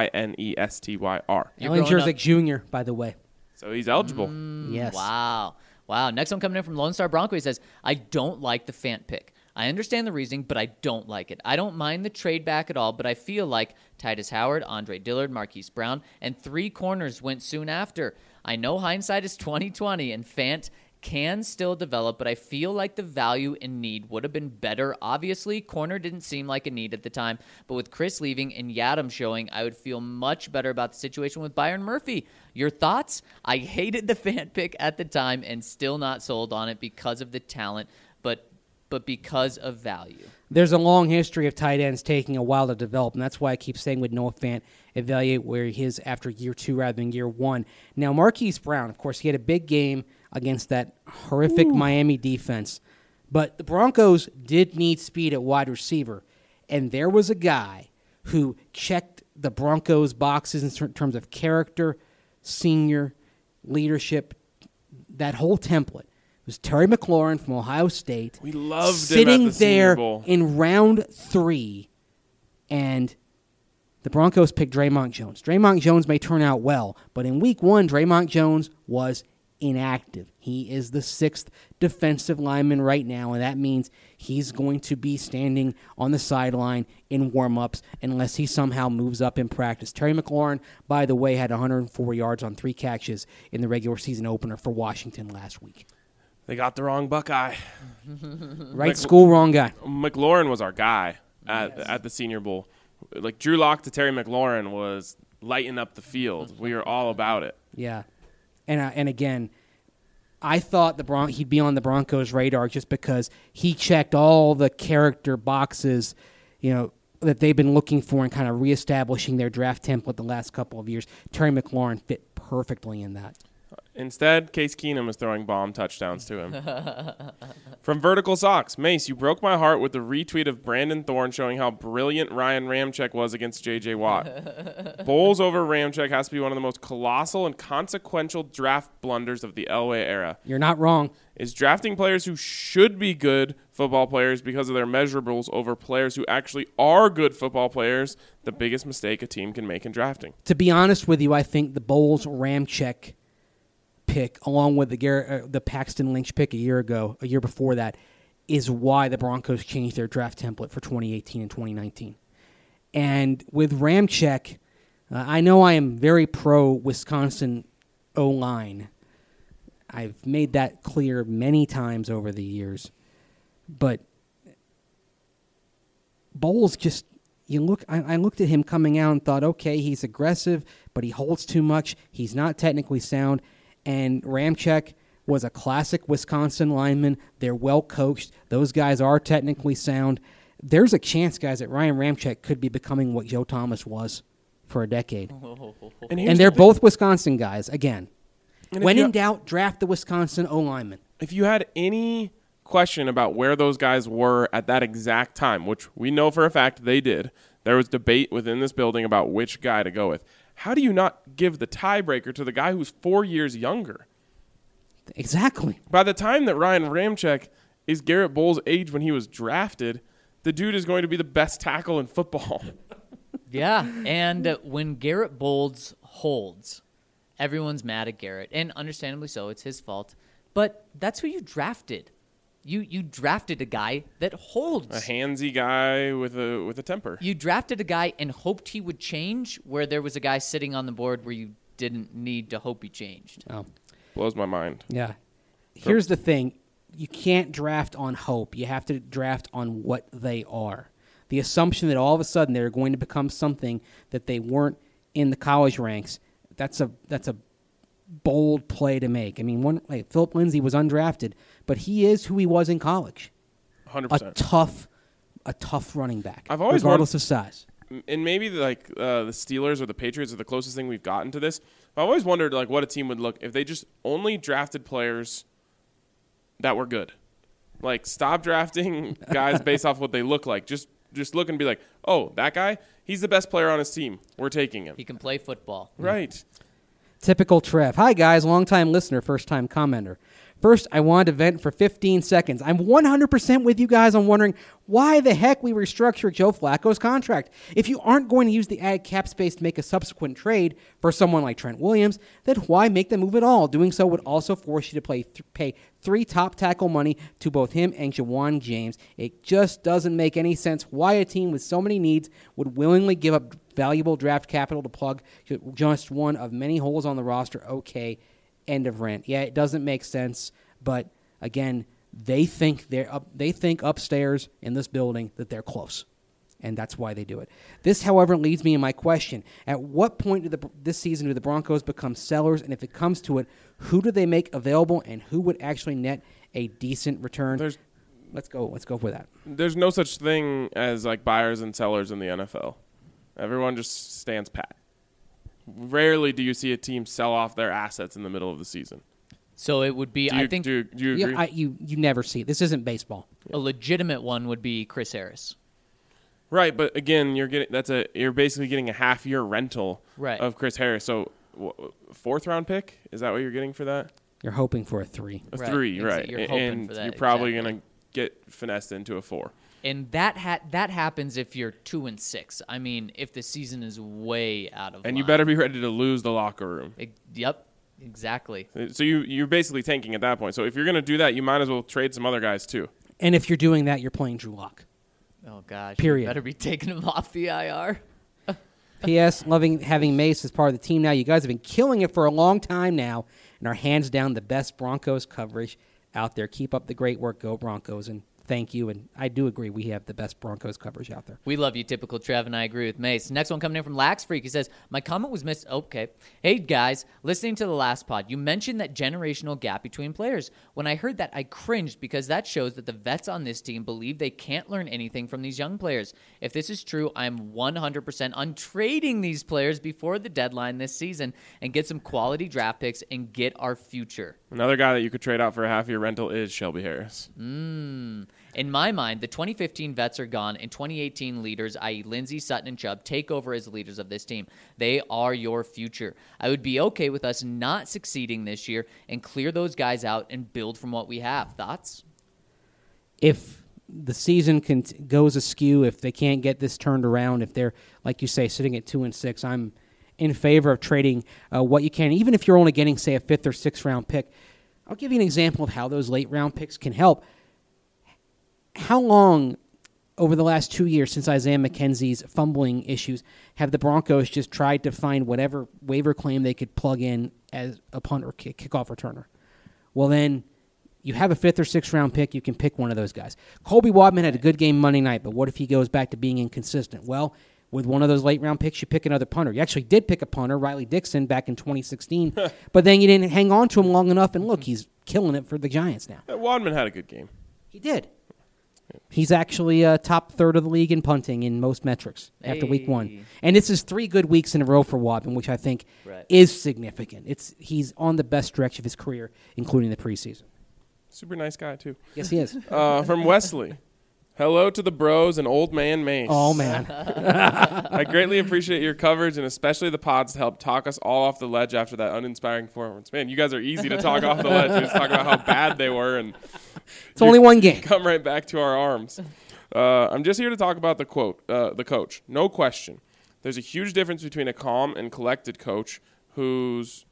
Winestyr. You're Alan growing Jerzik Jr., by the way. So he's eligible. Yes. Wow. Next one coming in from Lone Star Bronco. He says, I don't like the Fant pick. I understand the reasoning, but I don't like it. I don't mind the trade back at all, but I feel like Titus Howard, Andre Dillard, Marquise Brown, and 3 corners went soon after. I know hindsight is 20/20, and Fant can still develop, but I feel like the value and need would have been better. Obviously, corner didn't seem like a need at the time, but with Chris leaving and Yadam showing, I would feel much better about the situation with Byron Murphy. Your thoughts? I hated the Fant pick at the time and still not sold on it because of the talent, but because of value. There's a long history of tight ends taking a while to develop, and that's why I keep saying with Noah Fant, evaluate where he is after year 2 rather than year 1. Now, Marquise Brown, of course, he had a big game against that horrific Miami defense, but the Broncos did need speed at wide receiver, and there was a guy who checked the Broncos' boxes in terms of character, senior, leadership, that whole template. It was Terry McLaurin from Ohio State. We loved sitting him at the there Senior Bowl. in round 3, and the Broncos picked Draymond Jones. Draymond Jones may turn out well, but in week 1, Draymond Jones was inactive. He is the 6th defensive lineman right now, and that means he's going to be standing on the sideline in warm-ups unless he somehow moves up in practice. Terry McLaurin, by the way, had 104 yards on 3 catches in the regular season opener for Washington last week. They got the wrong Buckeye. Right school, wrong guy. McLaurin was our guy at the Senior Bowl. Like Drew Lock to Terry McLaurin was lighting up the field. We were all about it. Yeah. And again, I thought he'd be on the Broncos' radar just because he checked all the character boxes, that they've been looking for and kind of reestablishing their draft template the last couple of years. Terry McLaurin fit perfectly in that. Instead, Case Keenum is throwing bomb touchdowns to him. From Vertical Socks, Mace, you broke my heart with the retweet of Brandon Thorne showing how brilliant Ryan Ramczyk was against J.J. Watt. Bowles over Ramczyk has to be one of the most colossal and consequential draft blunders of the Elway era. You're not wrong. Is drafting players who should be good football players because of their measurables over players who actually are good football players the biggest mistake a team can make in drafting? To be honest with you, I think the Bowles-Ramczyk pick, along with the Paxton Lynch pick a year before that, is why the Broncos changed their draft template for 2018 and 2019. And with Ramczyk, I know I am very pro-Wisconsin O-line. I've made that clear many times over the years. But Bowles just, I looked at him coming out and thought, okay, he's aggressive, but he holds too much. He's not technically sound. And Ramczyk was a classic Wisconsin lineman. They're well coached. Those guys are technically sound. There's a chance, guys, that Ryan Ramczyk could be becoming what Joe Thomas was for a decade. And they're both Wisconsin guys, again. When in doubt, draft the Wisconsin O-lineman. If you had any question about where those guys were at that exact time, which we know for a fact they did, there was debate within this building about which guy to go with. How do you not give the tiebreaker to the guy who's 4 years younger? Exactly. By the time that Ryan Ramczyk is Garrett Bowles' age when he was drafted, the dude is going to be the best tackle in football. Yeah, and when Garrett Bowles holds, everyone's mad at Garrett, and understandably so, it's his fault. But that's who you drafted. You drafted a guy that holds. A handsy guy with a temper. You drafted a guy and hoped he would change, where there was a guy sitting on the board where you didn't need to hope he changed. Oh. Blows my mind. Yeah. Here's the thing. You can't draft on hope. You have to draft on what they are. The assumption that all of a sudden they're going to become something that they weren't in the college ranks, that's a bold play to make. I mean, Philip Lindsay was undrafted, but he is who he was in college. 100%. A tough running back, I've always regardless of size. And maybe the Steelers or the Patriots are the closest thing we've gotten to this. I've always wondered what a team would look if they just only drafted players that were good. Stop drafting guys based off what they look like. Just look and be like, oh, that guy, he's the best player on his team. We're taking him. He can play football. Right. Typical Trev. Hi, guys. Long-time listener, first-time commenter. First, I wanted to vent for 15 seconds. I'm 100% with you guys on wondering why the heck we restructured Joe Flacco's contract. If you aren't going to use the added cap space to make a subsequent trade for someone like Trent Williams, then why make the move at all? Doing so would also force you to pay 3 top tackle money to both him and Jawan James. It just doesn't make any sense why a team with so many needs would willingly give up valuable draft capital to plug just one of many holes on the roster. Okay. End of rant. Yeah, it doesn't make sense, but again, they think upstairs in this building that they're close, and that's why they do it. This, however, leads me to my question: at what point this season do the Broncos become sellers? And if it comes to it, who do they make available, and who would actually net a decent return? Let's go for that. There's no such thing as like buyers and sellers in the NFL. Everyone just stands pat. Rarely do you see a team sell off their assets in the middle of the season. So it would be, Do you agree? You never see it. This isn't baseball. a legitimate one would be Chris Harris. Right, but again, you're basically getting a half-year rental Right. of Chris Harris. So, 4th-round pick? Is that what you're getting for that? You're hoping for a 3. A Right. 3, right? You're hoping and for that, you're probably exactly. going to get finessed into a 4. And that happens if you're 2-6. I mean, if the season is way out of And line. you better be ready to lose the locker room. Yep, exactly. So you're basically tanking at that point. So if you're going to do that, you might as well trade some other guys too. And if you're doing that, you're playing Drew Lock. Oh gosh. Period. You better be taking him off the IR. P.S. Loving having Mace as part of the team now. You guys have been killing it for a long time now and are hands down the best Broncos coverage out there. Keep up the great work. Go Broncos. And thank you. And I do agree we have the best Broncos coverage out there. We love you, typical Trev, and I agree with Mace. Next one coming in from Lax Freak. He says, my comment was missed. Okay. Hey, guys, listening to the last pod, you mentioned that generational gap between players. When I heard that, I cringed because that shows that the vets on this team believe they can't learn anything from these young players. If this is true, I'm 100% on trading these players before the deadline this season and get some quality draft picks and get our future. Another guy that you could trade out for a half-year rental is Shelby Harris. In my mind, the 2015 vets are gone, and 2018 leaders, i.e. Lindsey, Sutton, and Chubb, take over as leaders of this team. They are your future. I would be okay with us not succeeding this year and clear those guys out and build from what we have. Thoughts? If the season goes askew, if they can't get this turned around, if they're, like you say, sitting at 2-6, I'm in favor of trading what you can, even if you're only getting, say, a 5th or 6th round pick. I'll give you an example of how those late round picks can help. How long over the last 2 years since Isaiah McKenzie's fumbling issues have the Broncos just tried to find whatever waiver claim they could plug in as a punt or kickoff returner? Well, then you have a 5th or 6th round pick. You can pick one of those guys. Colby Wadman had a good game Monday night, but what if he goes back to being inconsistent? Well, with one of those late round picks, you pick another punter. You actually did pick a punter, Riley Dixon, back in 2016, but then you didn't hang on to him long enough, and look, he's killing it for the Giants now. Wadman had a good game. He did. He's actually top third of the league in punting in most metrics after week 1. And this is 3 good weeks in a row for Wadman, which I think is significant. He's on the best stretch of his career, including the preseason. Super nice guy, too. Yes, he is. From Wesley. Hello to the bros and old man Mace. Oh, man. I greatly appreciate your coverage and especially the pods to help talk us all off the ledge after that uninspiring performance. Man, you guys are easy to talk off the ledge. We just talk about how bad they were, and It's only one game. come right back to our arms. I'm just here to talk about the coach. No question. There's a huge difference between a calm and collected coach who's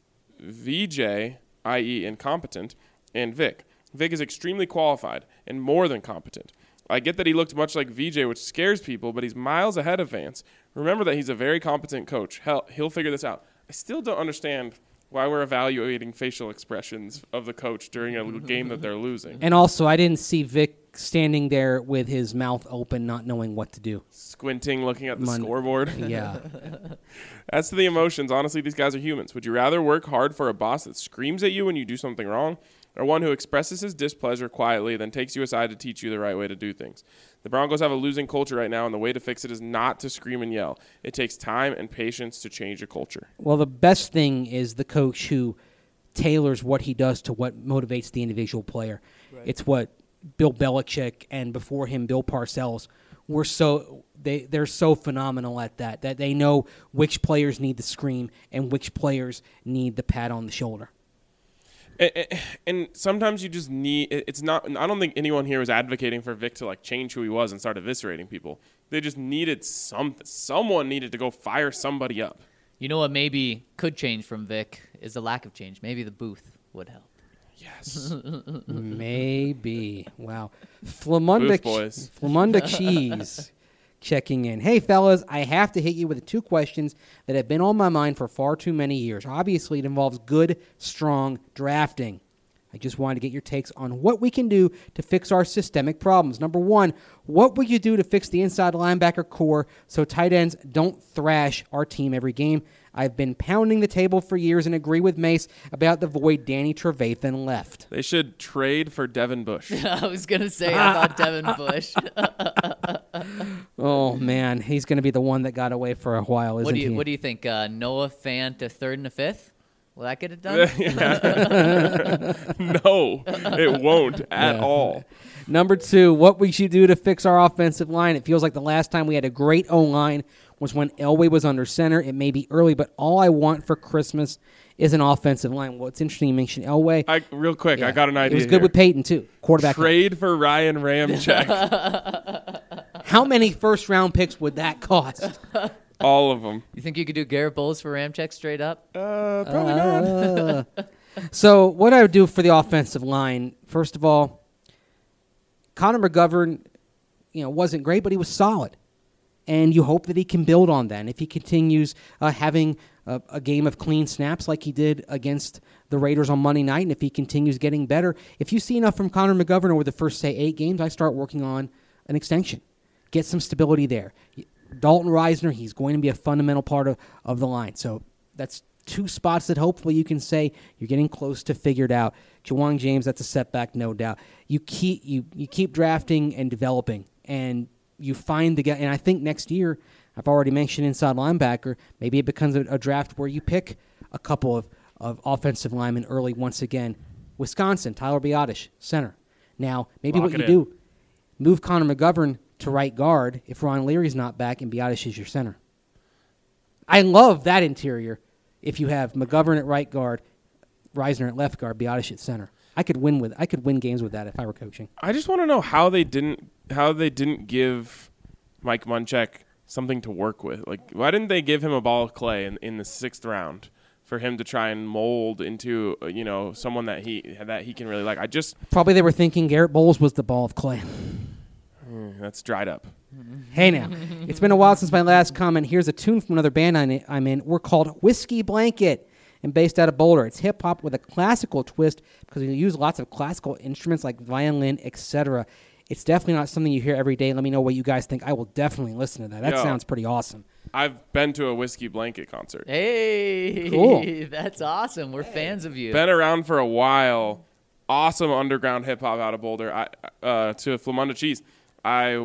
VJ, i.e. incompetent, and Vic. Vic is extremely qualified and more than competent. I get that he looked much like VJ, which scares people, but he's miles ahead of Vance. Remember that he's a very competent coach. Hell, he'll figure this out. I still don't understand why we're evaluating facial expressions of the coach during a game that they're losing. And also, I didn't see Vic standing there with his mouth open, not knowing what to do. Squinting, looking at the scoreboard. Yeah. As to the emotions, honestly, these guys are humans. Would you rather work hard for a boss that screams at you when you do something wrong, or one who expresses his displeasure quietly, then takes you aside to teach you the right way to do things? The Broncos have a losing culture right now, and the way to fix it is not to scream and yell. It takes time and patience to change a culture. Well, the best thing is the coach who tailors what he does to what motivates the individual player. Right. It's what Bill Belichick and before him Bill Parcells were they're so phenomenal at that they know which players need the scream and which players need the pat on the shoulder. And sometimes you just need. It's not. I don't think anyone here was advocating for Vic to like change who he was and start eviscerating people. They just needed something. Someone needed to go fire somebody up. You know what maybe could change from Vic is the lack of change. Maybe the booth would help. Yes. Maybe. Wow. Booth boys. Flamunda Cheese checking in. Hey, fellas, I have to hit you with the 2 questions that have been on my mind for far too many years. Obviously, it involves good, strong drafting. I just wanted to get your takes on what we can do to fix our systemic problems. Number 1, what would you do to fix the inside linebacker core so tight ends don't thrash our team every game? I've been pounding the table for years and agree with Mace about the void Danny Trevathan left. They should trade for Devin Bush. I was going to say about Devin Bush. Oh, man. He's going to be the one that got away for a while, isn't he? What do you think? Noah Fant to 3rd and a 5th? Will that get it done? No, it won't at all. Number 2, what we should do to fix our offensive line. It feels like the last time we had a great O-line was when Elway was under center. It may be early, but all I want for Christmas is an offensive line. Well, it's interesting you mentioned Elway. Real quick, I got an idea. It was good with Peyton, too. Quarterback. Trade for Ryan Ramczyk. How many first-round picks would that cost? All of them. You think you could do Garrett Bowles for Ramczyk straight up? Probably not. So what I would do for the offensive line, first of all, Connor McGovern, wasn't great, but he was solid. And you hope that he can build on that. And if he continues having a game of clean snaps like he did against the Raiders on Monday night, and if he continues getting better, if you see enough from Connor McGovern over the first, say, 8 games, I start working on an extension. Get some stability there. Dalton Reisner, he's going to be a fundamental part of the line. So that's 2 spots that hopefully you can say you're getting close to figured out. Ja'Wuan James, that's a setback, no doubt. You keep drafting and developing, and you find the guy. And I think next year, I've already mentioned inside linebacker, maybe it becomes a draft where you pick a couple of offensive linemen early once again. Wisconsin, Tyler Biadasz, center. Now, maybe what you do, move Connor McGovern to right guard if Ron Leary's not back and Biadasz is your center. I love that interior if you have McGovern at right guard, Reisner at left guard, Biadasz at center. I could win games with that if I were coaching. I just want to know how they didn't give Mike Munchak something to work with. Like, why didn't they give him a ball of clay in the 6th round for him to try and mold into someone that he can really like? Probably they were thinking Garrett Bowles was the ball of clay. That's dried up. Hey now, it's been a while since my last comment. Here's a tune from another band I'm in. We're called Whiskey Blanket and based out of Boulder. It's hip-hop with a classical twist because we use lots of classical instruments like violin, etc. It's definitely not something you hear every day. Let me know what you guys think. I will definitely listen to that. That sounds pretty awesome. I've been to a Whiskey Blanket concert. Hey, cool. That's awesome. We're fans of you. Been around for a while. Awesome underground hip-hop out of Boulder. To Flamunda Cheese. I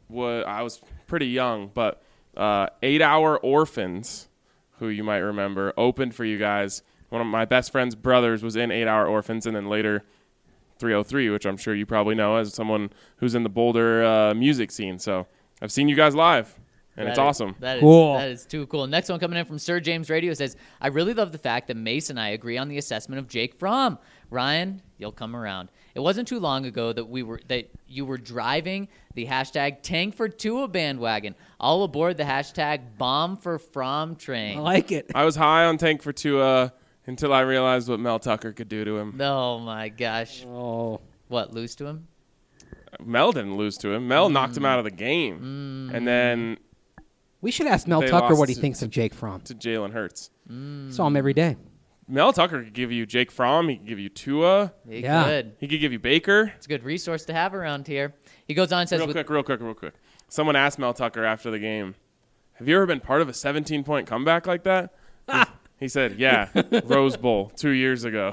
was pretty young, but 8 Hour Orphans, who you might remember, opened for you guys. One of my best friend's brothers was in 8 Hour Orphans, and then later 303, which I'm sure you probably know as someone who's in the Boulder music scene. So I've seen you guys live, and it's awesome. That is too cool. Next one coming in from Sir James Radio says, I really love the fact that Mace and I agree on the assessment of Jake Fromm. Ryan, you'll come around. It wasn't too long ago that you were driving the hashtag Tank for Tua bandwagon. All aboard the hashtag Bomb for Fromm train. I like it. I was high on Tank for Tua until I realized what Mel Tucker could do to him. Oh, my gosh. Oh. What, lose to him? Mel didn't lose to him. Mel knocked him out of the game. And then we should ask Mel Tucker what he thinks of Jake Fromm. To Jalen Hurts. Saw him every day. Mel Tucker could give you Jake Fromm. He could give you Tua. He could. He could give you Baker. It's a good resource to have around here. He goes on and says... Real quick. Someone asked Mel Tucker after the game, have you ever been part of a 17-point comeback like that? He said, yeah, Rose Bowl 2 years ago.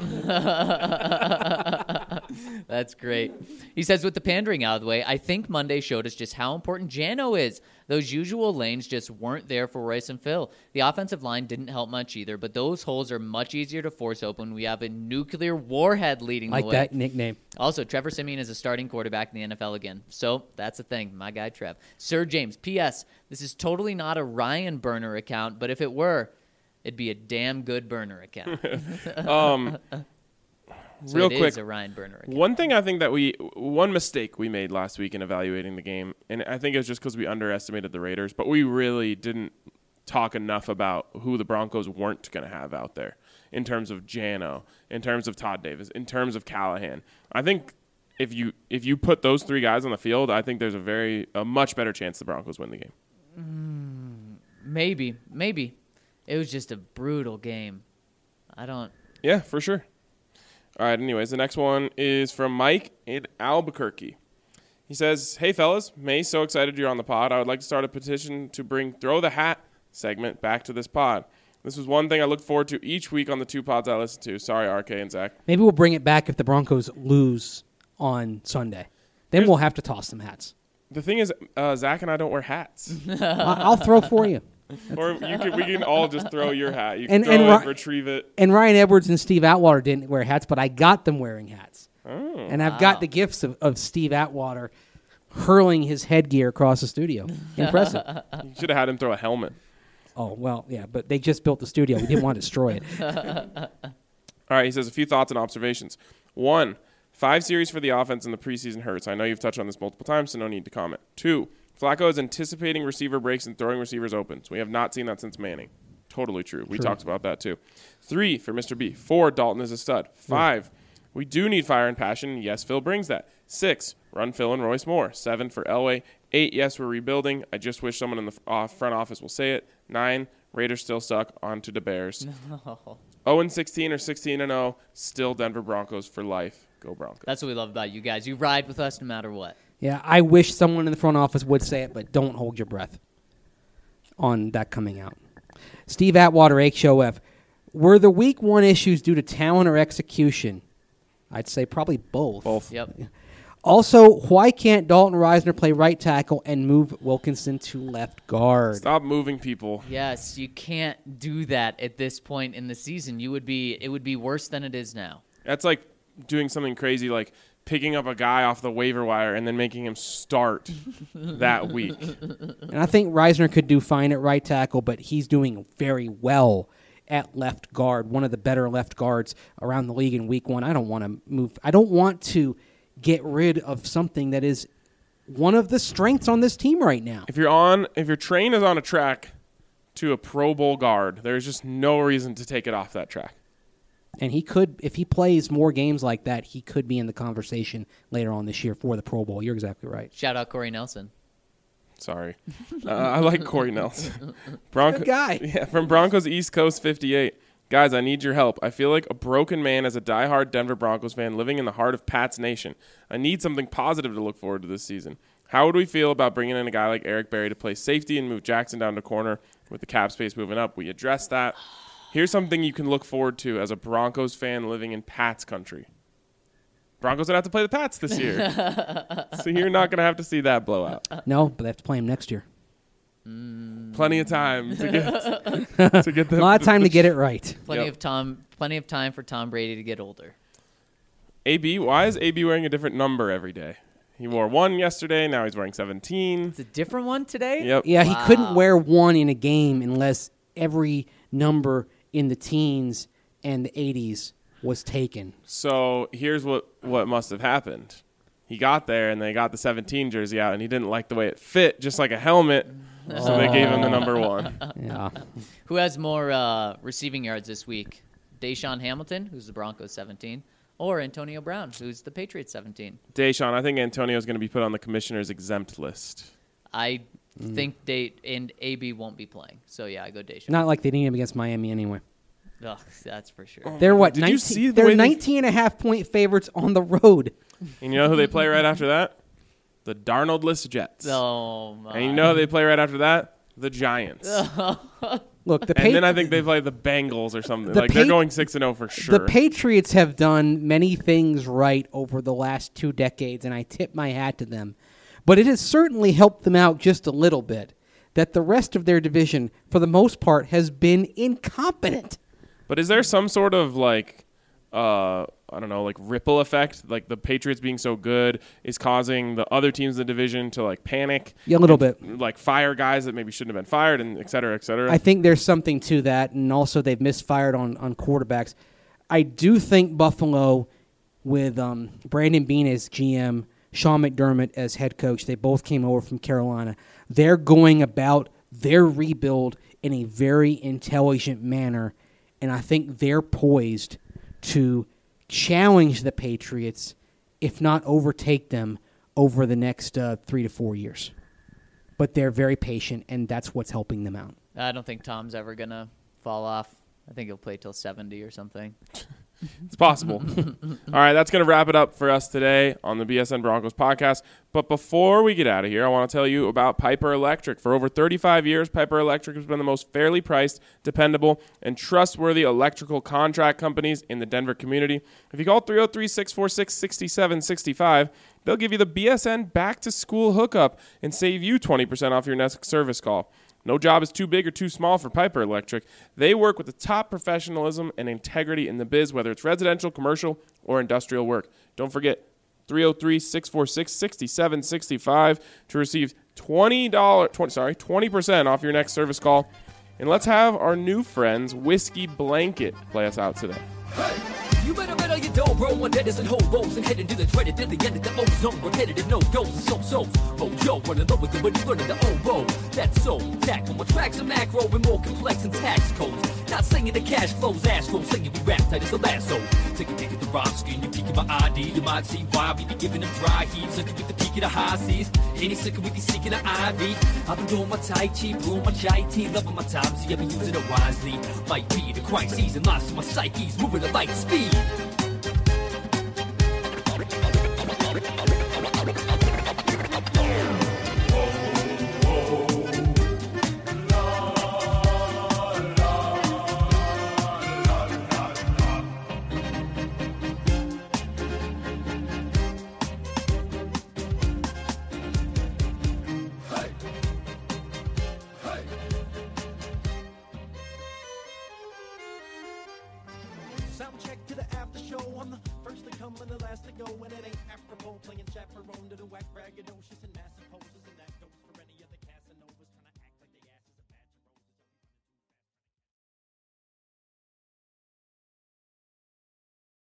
That's great. He says, with the pandering out of the way, I think Monday showed us just how important Jano is. Those usual lanes just weren't there for Royce and Phil. The offensive line didn't help much either, but those holes are much easier to force open. We have a nuclear warhead leading the way. Like that nickname. Also, Trevor Siemian is a starting quarterback in the NFL again. So that's the thing. My guy, Trev. Sir James, P.S. This is totally not a Ryan burner account, but if it were, it'd be a damn good burner account. So real it quick, is a Ryan Burner account. one thing I think that one mistake we made last week in evaluating the game, and I think it was just because we underestimated the Raiders, but we really didn't talk enough about who the Broncos weren't going to have out there in terms of Jano, in terms of Todd Davis, in terms of Callahan. I think if you put those three guys on the field, I think there's a much better chance the Broncos win the game. Maybe. It was just a brutal game. Yeah, for sure. All right, anyways, the next one is from Mike in Albuquerque. He says, "Hey, fellas, May, so excited you're on the pod. I would like to start a petition to bring Throw the Hat segment back to this pod. This was one thing I looked forward to each week on the two pods I listen to. Sorry, RK and Zach. Maybe we'll bring it back if the Broncos lose on Sunday. Then we'll have to toss some hats. The thing is, Zach and I don't wear hats. I'll throw for you. Or we can all just throw your hat. You can And- throw and it, Ri- retrieve it. And Ryan Edwards and Steve Atwater didn't wear hats, but I got them wearing hats. Oh. And I've got the gifts of Steve Atwater hurling his headgear across the studio. Impressive. You should have had him throw a helmet. Oh, well, yeah, but they just built the studio. We didn't want to destroy it. All right, he says a few thoughts and observations. 1, 5 series for the offense in the preseason hurts. I know you've touched on this multiple times, so no need to comment. 2, Flacco is anticipating receiver breaks and throwing receivers open. So we have not seen that since Manning. Totally true. We talked about that too. 3, for Mr. B. 4, Dalton is a stud. 5, we do need fire and passion. Yes, Phil brings that. 6, run Phil and Royce Moore. 7, for Elway. 8, yes, we're rebuilding. I just wish someone in the front office will say it. 9, Raiders still suck. On to the Bears. 0-16 or 16-0, still Denver Broncos for life. Go Broncos. That's what we love about you guys. You ride with us no matter what. Yeah, I wish someone in the front office would say it, but don't hold your breath on that coming out. Steve Atwater, HOF. Were the week 1 issues due to talent or execution? I'd say probably both. Both. Yep. Also, why can't Dalton Reisner play right tackle and move Wilkinson to left guard? Stop moving people. Yes, you can't do that at this point in the season. It would be worse than it is now. That's like doing something crazy like picking up a guy off the waiver wire and then making him start that week. And I think Reisner could do fine at right tackle, but he's doing very well at left guard, one of the better left guards around the league in week 1. I don't want to move. I don't want to get rid of something that is one of the strengths on this team right now. If your train is on a track to a Pro Bowl guard, there's just no reason to take it off that track. And he could, if he plays more games like that, he could be in the conversation later on this year for the Pro Bowl. You're exactly right. Shout out Corey Nelson. Sorry. I like Corey Nelson. Good guy. Yeah, from Broncos East Coast 58. Guys, I need your help. I feel like a broken man as a diehard Denver Broncos fan living in the heart of Pat's Nation. I need something positive to look forward to this season. How would we feel about bringing in a guy like Eric Berry to play safety and move Jackson down to corner with the cap space moving up? We addressed that. Here's something you can look forward to as a Broncos fan living in Pat's country. Broncos don't have to play the Pats this year. So you're not going to have to see that blowout. No, but they have to play him next year. Plenty of time to get A lot of time to get it right. Plenty of time for Tom Brady to get older. AB, why is AB wearing a different number every day? He wore 1 yesterday, now he's wearing 17. It's a different one today? Yep. Yeah, Wow. he couldn't wear 1 in a game unless every number in the teens and the 80s was taken. So here's what must have happened. He got there and they got the 17 jersey out and he didn't like the way it fit, just like a helmet. So they gave him the number 1. Yeah. Who has more receiving yards this week? Deshaun Hamilton, who's the Broncos 17, or Antonio Brown, who's the Patriots 17? Deshaun, I think Antonio's going to be put on the commissioner's exempt list. I think and AB won't be playing. So, yeah, I go Deshaun. Not like they need him against Miami anyway. Ugh, that's for sure. They're what? Did 19, you see the they're way they- 19.5-point favorites on the road. And you know who they play right after that? The Darnold-less Jets. Oh, my. And you know who they play right after that? The Giants. Look, the And then I think they play the Bengals or something. The Like they're Pa- going 6-0 for sure. The Patriots have done many things right over the last 2 decades, and I tip my hat to them. But it has certainly helped them out just a little bit that the rest of their division, for the most part, has been incompetent. But is there some sort of like, I don't know, like ripple effect? Like the Patriots being so good is causing the other teams in the division to like panic? Yeah, a little bit. Like fire guys that maybe shouldn't have been fired and et cetera, et cetera? I think there's something to that, and also they've misfired on quarterbacks. I do think Buffalo with Brandon Beane as GM, Sean McDermott as head coach. They both came over from Carolina. They're going about their rebuild in a very intelligent manner, and I think they're poised to challenge the Patriots, if not overtake them, over the next 3 to 4 years. But they're very patient, and that's what's helping them out. I don't think Tom's ever going to fall off. I think he'll play till 70 or something. It's possible. All right, that's going to wrap it up for us today on the BSN Broncos podcast. But before we get out of here, I want to tell you about Piper Electric. For over 35 years, Piper Electric has been the most fairly priced, dependable, and trustworthy electrical contract companies in the Denver community. If you call 303-646-6765, they'll give you the BSN back-to-school hookup and save you 20% off your next service call. No job is too big or too small for Piper Electric. They work with the top professionalism and integrity in the biz, whether it's residential, commercial, or industrial work. Don't forget, 303-646-6765 to receive $20% off your next service call. And let's have our new friends, Whiskey Blanket, play us out today. You better bet on your dough, bro. One that isn't hobos and heading to the dreaded at the end of the ozone. Repetitive no goes and so-sos. Mojo running low with the money running the oboe. That's so tack on my tracks are macro and more complex than tax codes. Not singing the cash flows, astro singing we rap tight as a lasso. Take a dig at the rhyme scheme, you peeking my ID. You might see why we be giving them dry heaves. Looking with the peak of the high seas. Any sicker with you seeking the IV. I've been doing my tai chi, brewing my chai tea. Loving my time, see I've been using it wisely. Might be the crises and lost to my psyche's moving at light speed. Sound check to the after show. I'm the first to come and the last to go. And it ain't apropos playing chaperone to the whack braggadocious and